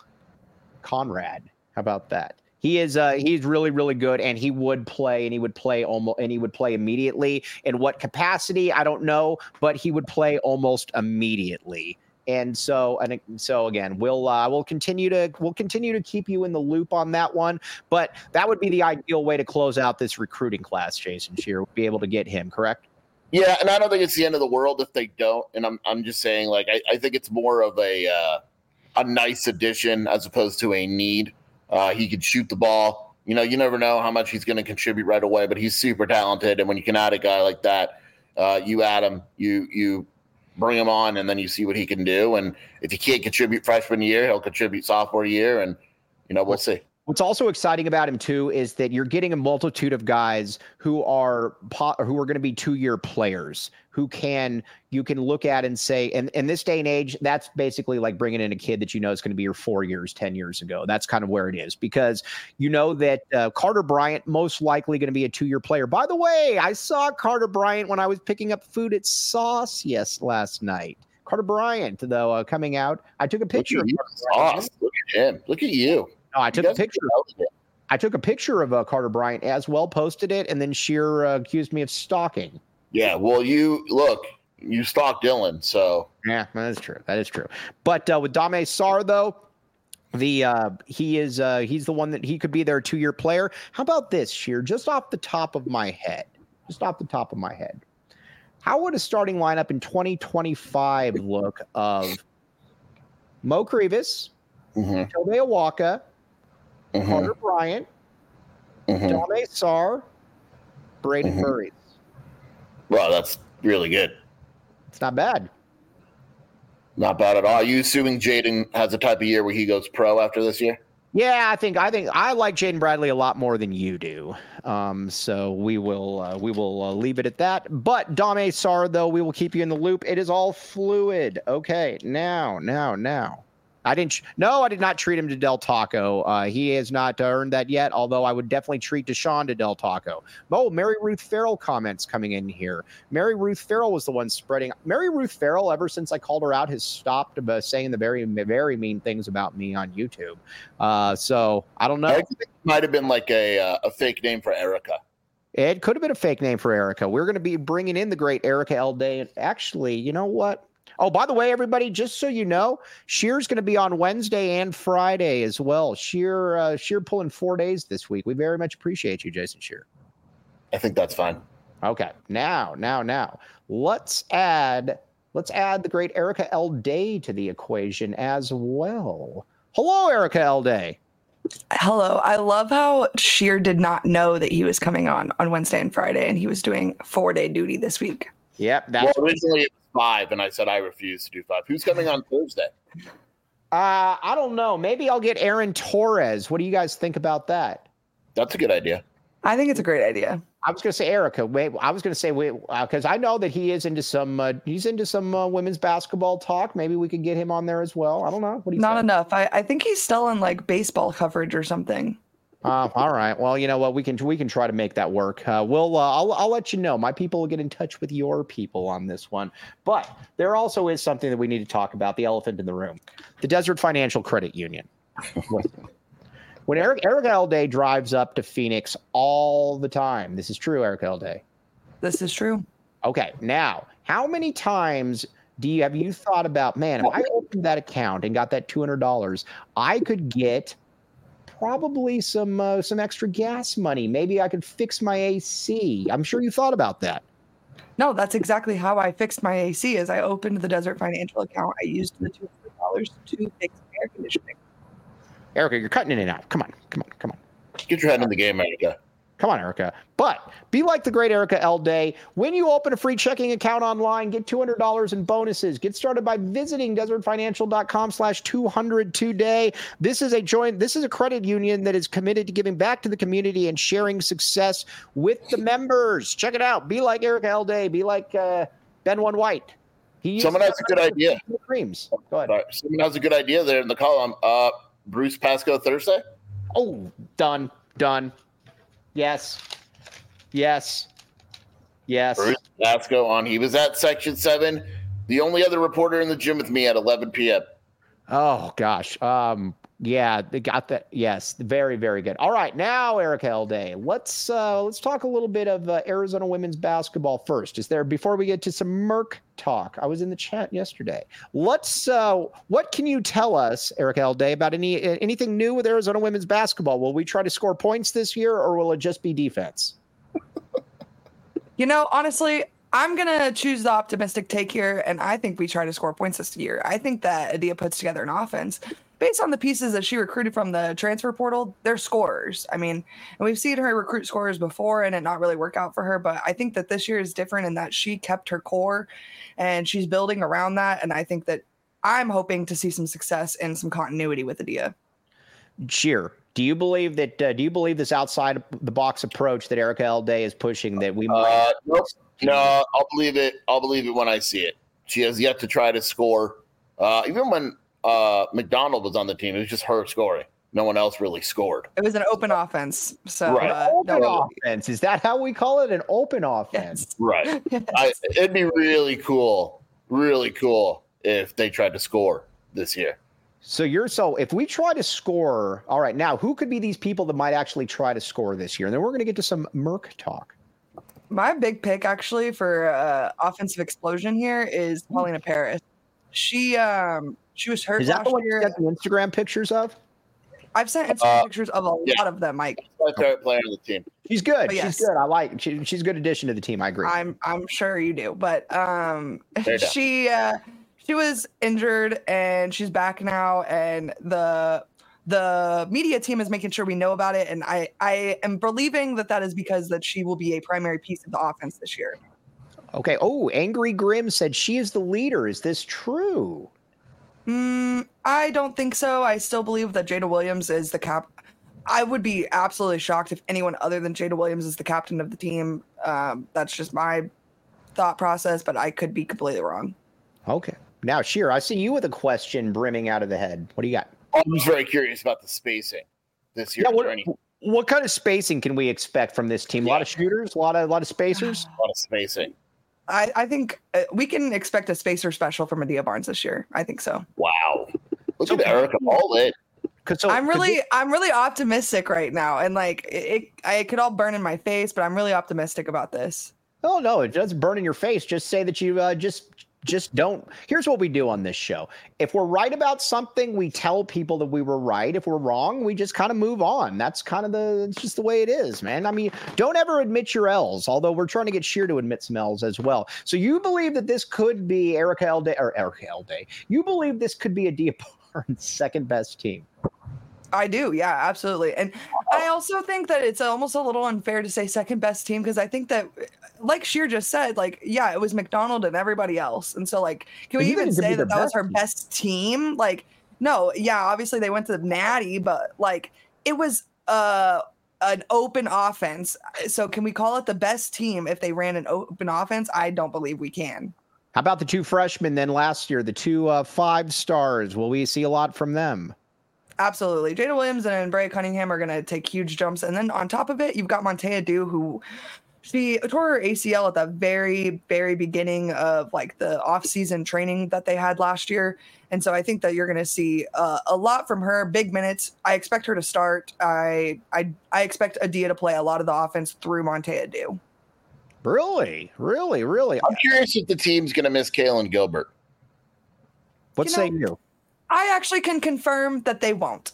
Conrad. How about that? He is uh, he's really, really good, and he would play, and he would play almost, and he would play immediately. In what capacity, I don't know, but he would play almost immediately. And so, and so again, we'll uh, we'll continue to we'll continue to keep you in the loop on that one. But that would be the ideal way to close out this recruiting class. Jason Scheer would be able to get him, correct? Yeah, and I don't think it's the end of the world if they don't. And I'm I'm just saying, like, I, I think it's more of a uh, a nice addition as opposed to a need. Uh, he could shoot the ball. You know, you never know how much he's going to contribute right away, but he's super talented. And when you can add a guy like that, uh, you add him, you you. bring him on, and then you see what he can do. And if he can't contribute freshman year, he'll contribute sophomore year, and you know, we'll see. What's also exciting about him too is that you're getting a multitude of guys who are who are going to be two-year players who can you can look at and say, and in this day and age, that's basically like bringing in a kid that you know is going to be your four years, ten years ago. That's kind of where it is, because you know that uh, Carter Bryant most likely going to be a two-year player. By the way, I saw Carter Bryant when I was picking up food at Sauce yes last night. Carter Bryant, though, uh, coming out. I took a picture of Sauce. Look at him. Look at you. No, I took a picture. I took a picture of uh, Carter Bryant as well, posted it, and then Scheer uh, accused me of stalking. Yeah, well, you look, you stalked Dylan, so yeah, that is true. That is true. But uh, with Dame Sarr, though, the uh, he is uh, he's the one that he could be their two-year player. How about this, Scheer? Just off the top of my head, just off the top of my head, how would a starting lineup in twenty twenty-five look of Mo Krivas, mm-hmm. Tobe Awaka, Mm-hmm. Carter Bryant, mm-hmm. Dame Sarr, Braden mm-hmm. Murray. Wow, that's really good. It's not bad. Not bad at all. Are you assuming Jaden has a type of year where he goes pro after this year? Yeah, I think I think I like Jaden Bradley a lot more than you do. Um, so we will uh, we will uh, leave it at that. But Dame Sarr, though, we will keep you in the loop. It is all fluid. Okay, now, now, now. I didn't. No, I did not treat him to Del Taco. Uh, he has not earned that yet, although I would definitely treat Deshaun to Del Taco. Oh, Mary Ruth Farrell comments coming in here. Mary Ruth Farrell was the one spreading. Mary Ruth Farrell, ever since I called her out, has stopped uh, saying the very, very mean things about me on YouTube. Uh, so I don't know. I think it might have been like a, uh, a fake name for Erica. It could have been a fake name for Erica. We're going to be bringing in the great Erica L. Day. Actually, you know what? Oh, by the way, everybody, just so you know, Scheer's going to be on Wednesday and Friday as well. Scheer, uh, Scheer pulling four days this week. We very much appreciate you, Jason Scheer. I think that's fine. Okay, now, now, now, let's add let's add the great Erica L. Day to the equation as well. Hello, Erica L. Day. Hello. I love how Scheer did not know that he was coming on on Wednesday and Friday, and he was doing four-day duty this week. Yep. That's well, originally five, and I said I refuse to do five. Who's coming on Thursday? Uh, I don't know. Maybe I'll get Aaron Torres. What do you guys think about that? That's a good idea. I think it's a great idea. I was going to say Erica. Wait, I was going to say wait because uh, I know that he is into some. Uh, he's into some uh, women's basketball talk. Maybe we could get him on there as well. I don't know. What do you Not think? enough. I, I think he's still in like baseball coverage or something. Uh, all right. Well, you know what? We can we can try to make that work. Uh, we'll uh, I'll I'll let you know. My people will get in touch with your people on this one. But there also is something that we need to talk about: the elephant in the room, the Desert Financial Credit Union. When Eric Erica L. Day drives up to Phoenix all the time, this is true, Erica L. Day. This is true. Okay. Now, how many times do you have you thought about? Man, if I opened that account and got that two hundred dollars, I could get probably some uh, some extra gas money. Maybe I could fix my A C. I'm sure you thought about that. No, that's exactly how I fixed my A C. Is I opened the Desert Financial account. I used the two hundred dollars to fix air conditioning. Erica, you're cutting in and out. Come on, come on, come on. Get your head in the game, Erica. Come on, Erica. But be like the great Erica L. Day. When you open a free checking account online, get two hundred dollars in bonuses. Get started by visiting desertfinancial.com slash 200 today. This is a joint. This is a credit union that is committed to giving back to the community and sharing success with the members. Check it out. Be like Erica L. Day. Be like uh, Ben One White. He Someone has a good idea. Creams. Go ahead. Right. Someone has a good idea there in the column. Uh, Bruce Pascoe Thursday? Oh, done, done. Yes, yes, yes. Bruce Pascoe on. He was at Section seven. The only other reporter in the gym with me at eleven p.m. Oh, gosh. Um, yeah, they got that. Yes, very, very good. All right, now, Erica Elday, let's uh, let's talk a little bit of uh, Arizona women's basketball first. Is there, before we get to some Merc talk, I was in the chat yesterday. Let's, uh, what can you tell us, Erica Elday, about any anything new with Arizona women's basketball? Will we try to score points this year, or will it just be defense? You know, honestly, I'm going to choose the optimistic take here, and I think we try to score points this year. I think that Adia puts together an offense. Based on the pieces that she recruited from the transfer portal, they're scorers. I mean, and we've seen her recruit scorers before and it not really work out for her, but I think that this year is different in that she kept her core and she's building around that, and I think that I'm hoping to see some success and some continuity with Adia. Cheer. Do you believe that, uh, do you believe this outside the box approach that Erica Elday is pushing that we might? Uh, nope. No, I'll believe it. I'll believe it when I see it. She has yet to try to score. Uh, even when uh, McDonald was on the team, it was just her scoring. No one else really scored. It was an open offense. So Right. uh, Open no, offense. Is that how we call it? An open offense. yes. Right. Yes. I, it'd be really cool, really cool if they tried to score this year. So you're so if we try to score, all right, now who could be these people that might actually try to score this year? And then we're going to get to some Merc talk. My big pick actually for uh, offensive explosion here is Paulina Paris. She um she was hurt Is that last the one you year. got the Instagram pictures of? I've sent Instagram Uh, pictures of a yeah. lot of them, Mike. My favorite player on the team. She's good. But yes. She's good. I like she, she's a good addition to the team. I agree. I'm I'm sure you do, but um Fair enough. she uh she was injured and she's back now, and the the media team is making sure we know about it, and I I am believing that that is because that she will be a primary piece of the offense this year. Okay. Oh, Angry Grim said she is the leader. Is this true? Mm, I don't think so. I still believe that Jada Williams is the cap. I would be absolutely shocked if anyone other than Jada Williams is the captain of the team. Um, that's just my thought process, but I could be completely wrong. Okay. Now, Sheer, I see you with a question brimming out of the head. What do you got? I'm just very curious about the spacing this year. Yeah, Is what, there any- what kind of spacing can we expect from this team? A lot of shooters, a lot of a lot of spacers. a lot of spacing. I, I think uh, we can expect a spacer special from Adia Barnes this year. I think so. Wow. Look So- at Erica all in. Cause so, I'm cause really, this- I'm really optimistic right now, and like it, it, I it could all burn in my face, but I'm really optimistic about this. oh no, it doesn't burn in your face. Just say that you uh, just just don't. Here's what we do on this show. If we're right about something, we tell people that we were right. If we're wrong, we just kind of move on. That's kind of the, it's just the way it is, man. I mean, don't ever admit your L's, although we're trying to get Sheer to admit some L's as well. So you believe that this could be Erica Elday, or Erica Elday. You believe this could be Adia Barnes' second best team. I do, yeah, absolutely. And I also think that it's almost a little unfair to say second best team, because I think that, like Sheer just said, like, yeah, it was McDonald and everybody else. And so, like, can we But you even think it could say be that their that was best her team. best team? Like, no, yeah, obviously they went to the Natty, but like, it was uh, an open offense. So can we call it the best team if they ran an open offense? I don't believe we can. How about the two freshmen then last year, the two uh, five stars? Will we see a lot from them? Absolutely. Jada Williams and Brea Cunningham are going to take huge jumps. And then on top of it, you've got Montea Dew, who she tore her A C L at the very, very beginning of like the off-season training that they had last year. And so I think that you're going to see uh, a lot from her, big minutes. I expect her to start. I I, I expect Adia to play a lot of the offense through Montea Dew. Really? Really? Really? I'm curious if the team's going to miss Kaylin Gilbert. What You say know- you? I actually can confirm that they won't.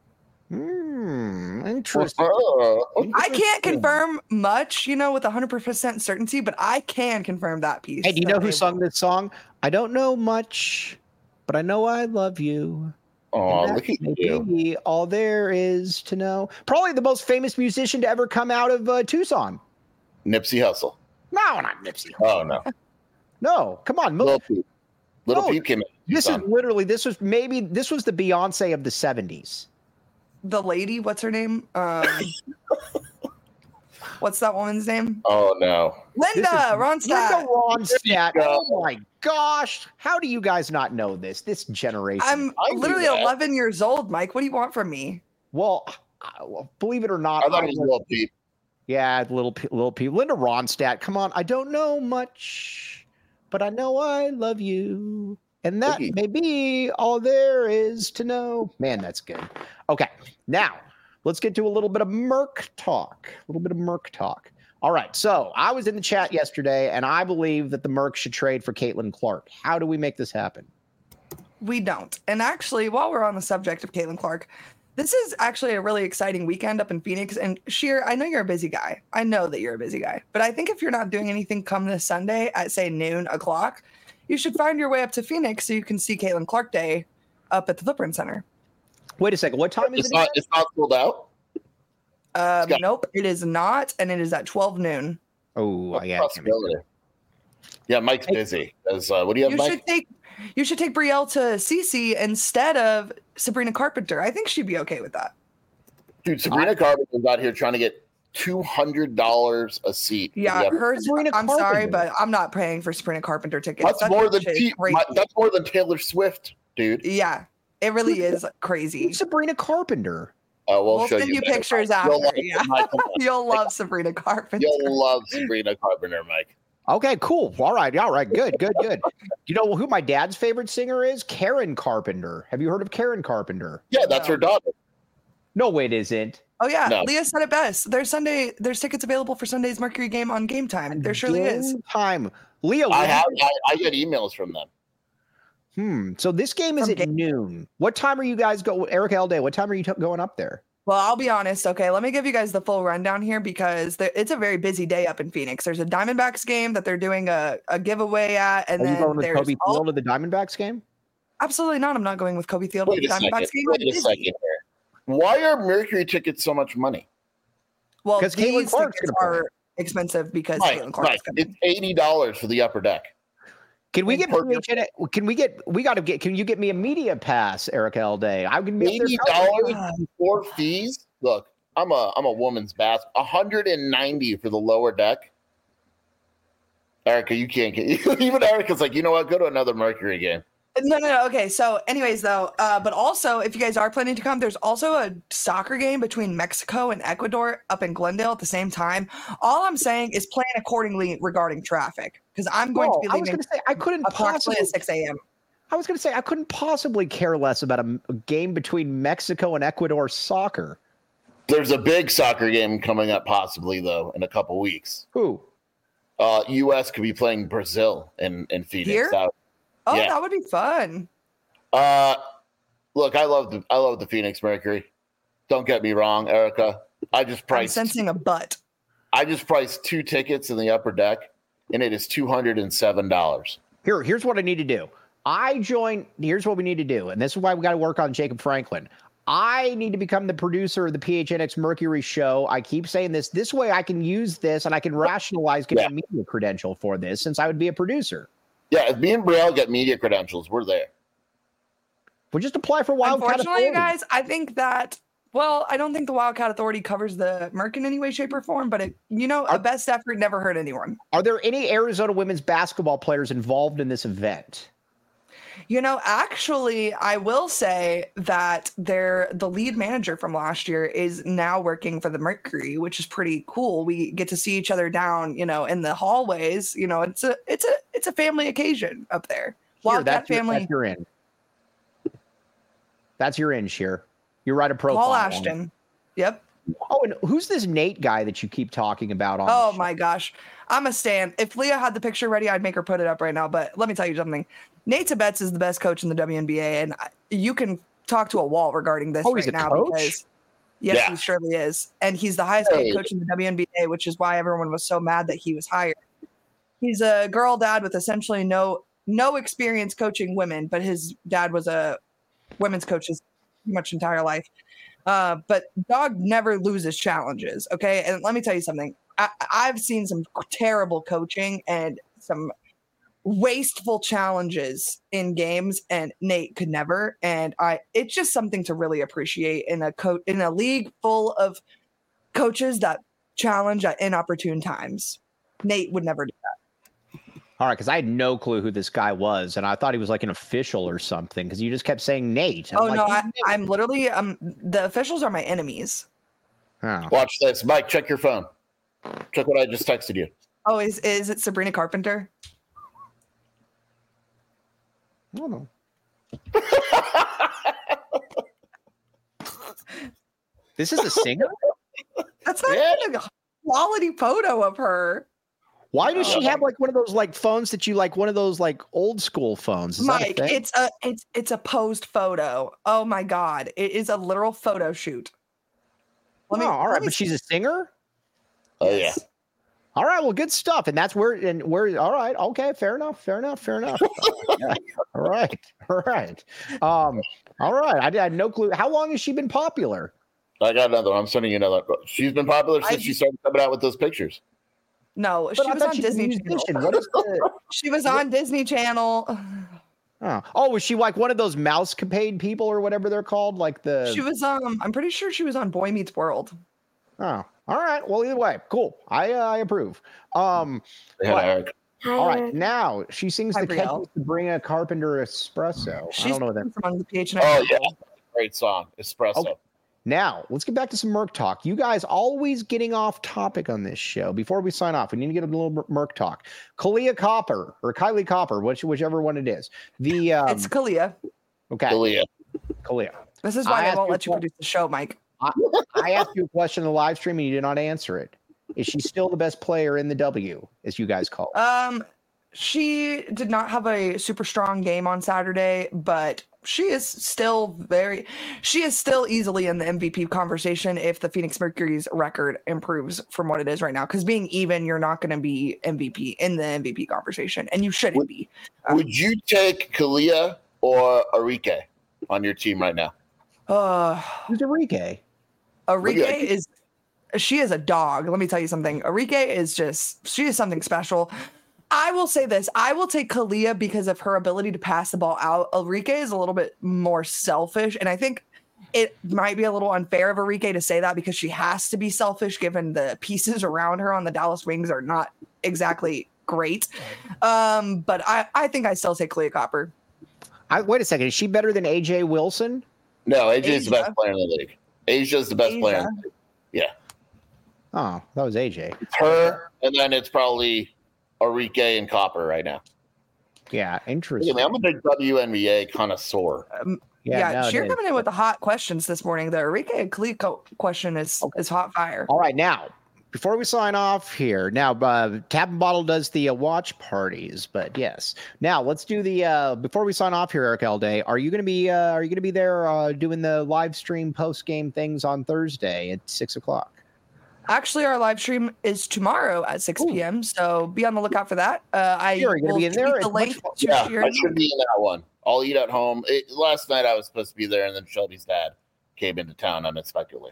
Hmm. Interesting. I can't confirm much, you know, with one hundred percent certainty, but I can confirm that piece. Hey, do you that know who they sung won't. this song? I don't know much, but I know I love you. Oh, And look that at may you. be all there is to know. Probably the most famous musician to ever come out of uh, Tucson. Nipsey Hussle. No, not Nipsey. Oh, no. No, come on. Mil- Little Peep. Little No, Peep came in. this is Tucson. literally, this was maybe, this was the Beyonce of the seventies. The lady, what's her name? Um, What's that woman's name? Oh no, Linda Ronstadt. Linda Ronstadt. Oh my gosh. How do you guys not know this? This generation. I'm I knew literally that. eleven years old, Mike. What do you want from me? Well, I- well, believe it or not, I thought I it was was- Lil Peep. yeah, little P- little P. Linda Ronstadt. Come on, I don't know much, but I know I love you, and that Cookie. may be all there is to know. Man, that's good. Okay, now let's get to a little bit of Merc talk. A little bit of Merc talk. All right, so I was in the chat yesterday, and I believe that the Merc should trade for Caitlin Clark. How do we make this happen? We don't. And actually, while we're on the subject of Caitlin Clark, this is actually a really exciting weekend up in Phoenix. And Sheer, I know you're a busy guy. I know that you're a busy guy. But I think if you're not doing anything come this Sunday at, say, noon o'clock, you should find your way up to Phoenix so you can see Caitlin Clark Day up at the Footprint Center. Wait a second. What time is It's it? not. again? It's not sold out. Um, got- nope, it is not. And it is at twelve noon. Oh, yeah. Possibility. Yeah, Mike's busy. As, uh, what do you have, You Mike? should take you should take Brielle to Cece instead of Sabrina Carpenter. I think she'd be okay with that. Dude, Sabrina Carpenter's out here trying to get two hundred dollars a seat. for Yeah, the upper- hers. Sabrina I'm sorry, Carpenter. but I'm not paying for Sabrina Carpenter tickets. That's That more than shit is T- crazy. my- that's more than Taylor Swift, dude. Yeah, it really is crazy. Sabrina Carpenter. Uh, we'll, We'll show send you you better. pictures You'll after. love it, Yeah, Mike. Come on. you'll love Sabrina Carpenter. You'll love Sabrina Carpenter, Mike. Okay, cool. All right, all right, good, good, good. You know who my dad's favorite singer is? Karen Carpenter. Have you heard of Karen Carpenter? Yeah, that's No. her daughter. No, it isn't. Oh yeah, No. Leah said it best. There's Sunday. There's tickets available for Sunday's Mercury game on Game Time. There surely is. Game Time. Leo, I when- have. I, I get emails from them. Hmm. So this game is From at Game- noon. What time are you guys go? Eric Alday, what time are you t- going up there? Well, I'll be honest. Okay, let me give you guys the full rundown here because there, it's a very busy day up in Phoenix. There's a Diamondbacks game that they're doing a, a giveaway at, and Are you then going with there's Kobe all- Field to the Diamondbacks game? absolutely not. I'm not going with Kobe Field. Wait a Diamondbacks second. game. Wait I'm a busy. second here. Why are Mercury tickets so much money? Well, 'Cause Caitlin these Clark's tickets gonna play. are expensive because Mike, Caitlin Clark Mike, is coming. it's eighty dollars for the upper deck. Can we And get per- P H N X Can we get? We got to get. Can you get me a media pass, Eric Alday? I can be up Eighty there. dollars before fees. Look, I'm a I'm a woman's bass. one hundred ninety for the lower deck. Erica, you can't get even Erica's like, you know what? Go to another Mercury game. No, no, no. Okay. So, anyways, though, uh, but also, if you guys are planning to come, there's also a soccer game between Mexico and Ecuador up in Glendale at the same time. All I'm saying is plan accordingly regarding traffic because I'm going Oh, to be I was leaving going to say I couldn't approximately possibly. at six a.m. I was going to say I couldn't possibly care less about a, a game between Mexico and Ecuador soccer. There's a big soccer game coming up, possibly though, in a couple weeks. Who? Uh, U S could be playing Brazil in in Phoenix. Here? That- Oh, Yeah. that would be fun. Uh, look, I love the I love the Phoenix Mercury. Don't get me wrong, Erica. I just I'm priced sensing a butt. I just priced two tickets in the upper deck, and it is two hundred and seven dollars. Here, here's what I need to do. I join. Here's what we need to do, and this is why we got to work on Jacob Franklin. I need to become the producer of the P H N X Mercury show. I keep saying this. This way, I can use this and I can rationalize getting Yeah. a media credential for this, since I would be a producer. Yeah, if me and Brielle get media credentials, we're there. We'll just apply for Wildcat Unfortunately, you Authority. guys, I think that. Well, I don't think the Wildcat Authority covers the Merc in any way, shape, or form. But it, you know, a best effort never hurt anyone. Are there any Arizona women's basketball players involved in this event? You know, actually, I will say that they're the lead manager from last year is now working for the Mercury, which is pretty cool. We get to see each other down, you know, in the hallways. You know, it's a it's a it's a family occasion up there. Here, Wildcat that's your, family. that's your in. That's your in, Sheer. You write a profile. Paul on it. Ashton. Yep. Oh, and who's this Nate guy that you keep talking about on? Oh the show? my gosh. I'm a stan. If Leah had the picture ready, I'd make her put it up right now. But let me tell you something. Nate Betts is the best coach in the W N B A, and I- you can talk to a wall regarding this Oh, he's right a now coach? because yes, Yeah. he surely is. And he's the highest paid Hey. coach in the W N B A, which is why everyone was so mad that he was hired. He's a girl dad with essentially no no experience coaching women, but his dad was a women's coach his pretty much entire life. Uh, but dog never loses challenges. Okay. And let me tell you something. I, I've seen some terrible coaching and some wasteful challenges in games, and Nate could never. And I, it's just something to really appreciate in a co- in a league full of coaches that challenge at inopportune times. Nate would never do that. All right, because I had no clue who this guy was, and I thought he was like an official or something because you just kept saying Nate. Oh like, no, I, I'm literally um the officials are my enemies. Oh. Watch this, Mike. Check your phone. Check what I just texted you. Oh, is is it Sabrina Carpenter? I don't know. This is a singer? That's not Yeah. even a quality photo of her. Why does she Uh, have like one of those like phones that you like one of those like old school phones? Is that a Mike, thing? it's a it's it's a posed photo. Oh my god, it is a literal photo shoot. Let me, oh, all let right, me but she's a singer? Oh Yes. yeah. All right, well, good stuff. And that's where and where all right, okay, fair enough, fair enough, fair enough. Yeah, all right, all right. Um, all right. I, I had no clue. How long has she been popular? I got another one. I'm sending you another. She's been popular since I- she started coming out with those pictures. No, But she I was thought on she was a Disney Channel. musician. What is the She was on Disney Channel. oh. oh, was she like one of those mousecapade people or whatever they're called? Like the She was um I'm pretty sure she was on Boy Meets World. Oh, all right. Well, either way, cool. I uh, I approve. Um, They had What? Eric. all right. Now she sings Hi, the Brielle. catchy Sabrina Carpenter Espresso. I She's don't know what that. from on the P H N. Oh yeah, great song, Espresso. Okay. Now let's get back to some Merc talk. You guys always getting off topic on this show. Before we sign off, we need to get a little Merc talk. Kalia Copper or Kylie Copper, which whichever one it is. The um, It's Kalia. okay, Kalia. Kalia. This is I why they asked won't you let you a- produce the show, Mike. I asked you a question in the live stream and you did not answer it. Is she still the best player in the W, as you guys call it? Um, she did not have a super strong game on Saturday, but she is still very, she is still easily in the M V P conversation if the Phoenix Mercury's record improves from what it is right now. Because being even, you're not going to be M V P in the M V P conversation, and you shouldn't Would- be. Um, Would you take Kalia or Arike on your team right now? Uh, Who's Enrique? Arike Look at- is, she is a dog. Let me tell you something. Arike is just, she is something special. I will say this. I will take Kalia because of her ability to pass the ball out. Arike is a little bit more selfish. And I think it might be a little unfair of Arike to say that because she has to be selfish given the pieces around her on the Dallas Wings are not exactly great. Um, but I, I think I still take Kalia Copper. I, wait a second. Is she better than A J Wilson? No, A J is the Asia. best player in the league. Asia's the best player. In the league. Yeah, Oh, that was A J. it's her, and then it's probably Arike and Copper right now. Yeah, Look interesting. at me, I'm a big W N B A connoisseur. Um, yeah, no, it you're is. coming in with the hot questions this morning. The Arike and Kalia co- question is, is hot fire. All right, now before we sign off here, now uh, Tap and Bottle does the uh, watch parties, but yes. Now let's do the uh, before we sign off here, Eric Alday. Are you going to be uh, Are you going to be there uh, doing the live stream post game things on Thursday at six o'clock? Actually, our live stream is tomorrow at six p.m. So be on the lookout for that. Uh, I Sure, you're gonna will be in tweet there? the It's much link fun. to Yeah, share. I should be in that one. I'll eat at home. It, last night I was supposed to be there, and then Shelby's dad came into town unexpectedly.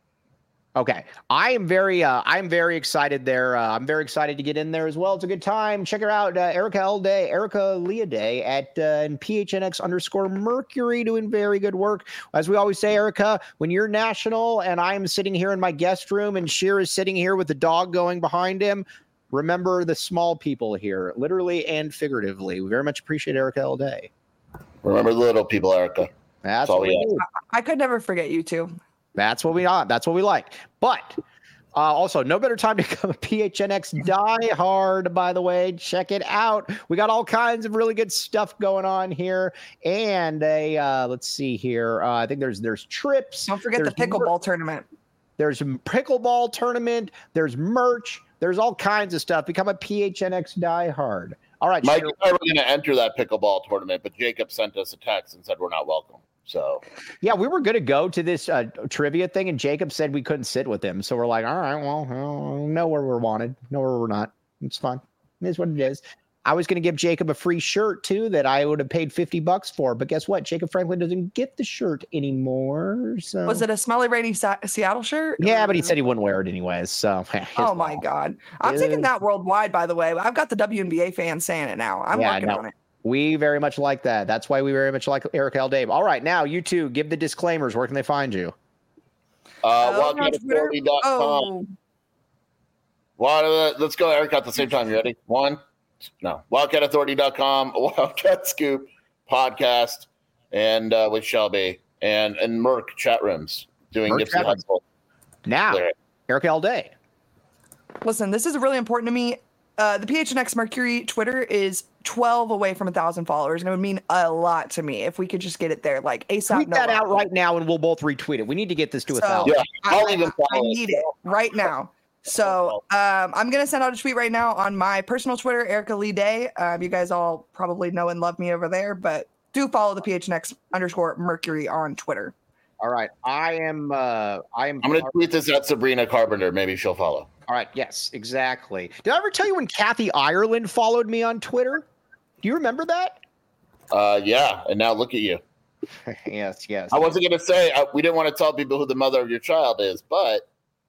Okay, I am very, uh, I'm very excited there. Uh, I'm very excited to get in there as well. It's a good time. Check her out, uh, Erica L Day, Erica Leah Day at uh, P H N X underscore Mercury, doing very good work. As we always say, Erica, when you're national and I'm sitting here in my guest room and Sheer is sitting here with the dog going behind him, remember the small people here, literally and figuratively. We very much appreciate Erica L Day. Remember the little people, Erica. That's all what we we ask. do. I could never forget you two. That's what we are. That's what we like. But uh, also, no better time to become a P H N X Die Hard, by the way. Check it out. We got all kinds of really good stuff going on here. And a uh, let's see here. Uh, I think there's there's trips. Don't forget there's the pickleball tournament. There's a pickleball tournament. There's merch. There's all kinds of stuff. Become a P H N X Die Hard. All right, Mike Sheer- and I were going to enter that pickleball tournament, but Jacob sent us a text and said we're not welcome. So Yeah, we were going to go to this uh, trivia thing, and Jacob said we couldn't sit with him. So we're like, all right, well, well, know where we're wanted, know where we're not. It's fine. It is what it is. I was going to give Jacob a free shirt, too, that I would have paid fifty bucks for. But guess what? Jacob Franklin doesn't get the shirt anymore. So. Was it a smelly rainy Sa- Seattle shirt? Yeah, but he said he wouldn't wear it anyways. So, his Oh my loss. God. I'm Yeah. taking that worldwide, by the way. I've got the W N B A fans saying it now. I'm Yeah, working no. on it. We very much like that. That's why we very much like Eric L. Dave. All right, now you two give the disclaimers. Where can they find you? uh, Oh, walking on to Twitter? forty dot com. Oh, Well, let's go, Eric, at the same time. You ready? One, no. Wildcat Authority dot com, Wildcat Scoop podcast, and uh, with Shelby and and Merc chat rooms doing Merc Nipsey Hussle. Now, Lyric. Eric L. Day. Listen, this is really important to me. Uh, the P H N X Mercury Twitter is twelve away from a thousand followers, and it would mean a lot to me if we could just get it there, like ASAP. Tweet no that out lie. right now, and we'll both retweet it. We need to get this to a So, thousand. Yeah, I'll I, even I, follow I need it right now. So um, I'm gonna send out a tweet right now on my personal Twitter, Erica Lee Day. Um, you guys all probably know and love me over there, but do follow the P H N X underscore Mercury on Twitter. All right, I am. Uh, I am. I'm going to tweet this at Sabrina Carpenter. Maybe she'll follow. All right. Yes, exactly. Did I ever tell you when Kathy Ireland followed me on Twitter? Do you remember that? Uh, yeah, and now look at you. yes. Yes. I wasn't going to say uh, we didn't want to tell people who the mother of your child is, but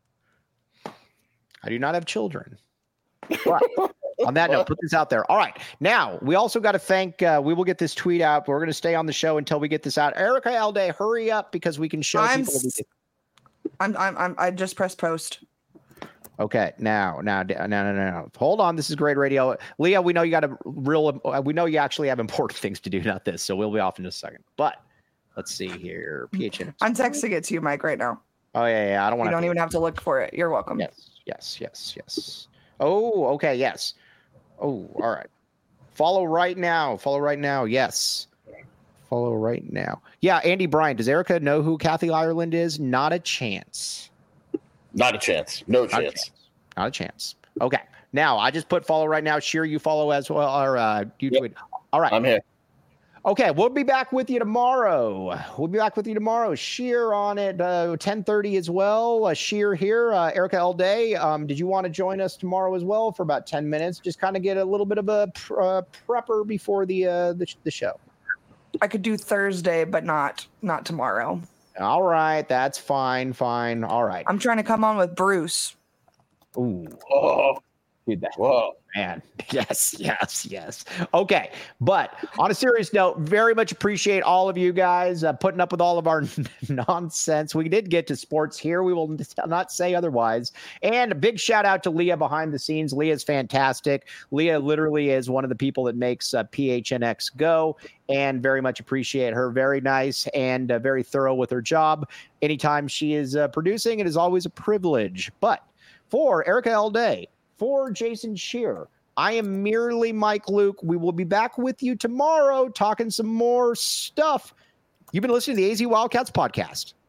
I do not have children. But on that note, put this out there. All right. Now, we also got to thank, uh, we will get this tweet out. We're going to stay on the show until we get this out. Erica Alday, hurry up because we can show I'm, people. s- I'm, I'm, I'm, I just pressed post. Okay. Now, now, no, no, no, no. Hold on. This is great radio. Leah, we know you got a real, uh, we know you actually have important things to do, not this. So we'll be off in just a second. But let's see here. P H N. I'm texting it to you, Mike, right now. Oh, yeah, yeah. I don't want You to. don't even have to look for it. You're welcome. Yes, yes, yes, yes. Oh, okay, yes. Oh, all right. Follow right now. Follow right now. Yes. Follow right now. Yeah, Andy Bryan. Does Erica know who Kathy Ireland is? Not a chance. not a chance. No Not a chance. chance. Not a chance. Okay. Now, I just put follow right now. Sheer, you follow as well. Or uh, you Yep. tweet. All right. I'm here. Okay, we'll be back with you tomorrow. We'll be back with you tomorrow. Sheer on at uh, ten thirty as well. Uh, Sheer here, uh, Erica L. Day. Um, did you want to join us tomorrow as well for about ten minutes? Just kind of get a little bit of a pr- uh, prepper before the, uh, the the show. I could do Thursday, but not not tomorrow. All right, that's fine, fine. All right. I'm trying to come on with Bruce. Ooh, Oh, dude, that whoa. man. Yes, yes, yes. Okay. But on a serious note, very much appreciate all of you guys uh, putting up with all of our nonsense. We did get to sports here. We will not say otherwise. And a big shout out to Leah behind the scenes. Leah's fantastic. Leah literally is one of the people that makes uh, P H N X go, and very much appreciate her. Very nice and uh, very thorough with her job. Anytime she is uh, producing, it is always a privilege. But for Erica L. Day, for Jason Shearer, I am merely Mike Luke. We will be back with you tomorrow talking some more stuff. You've been listening to the A Z Wildcats podcast.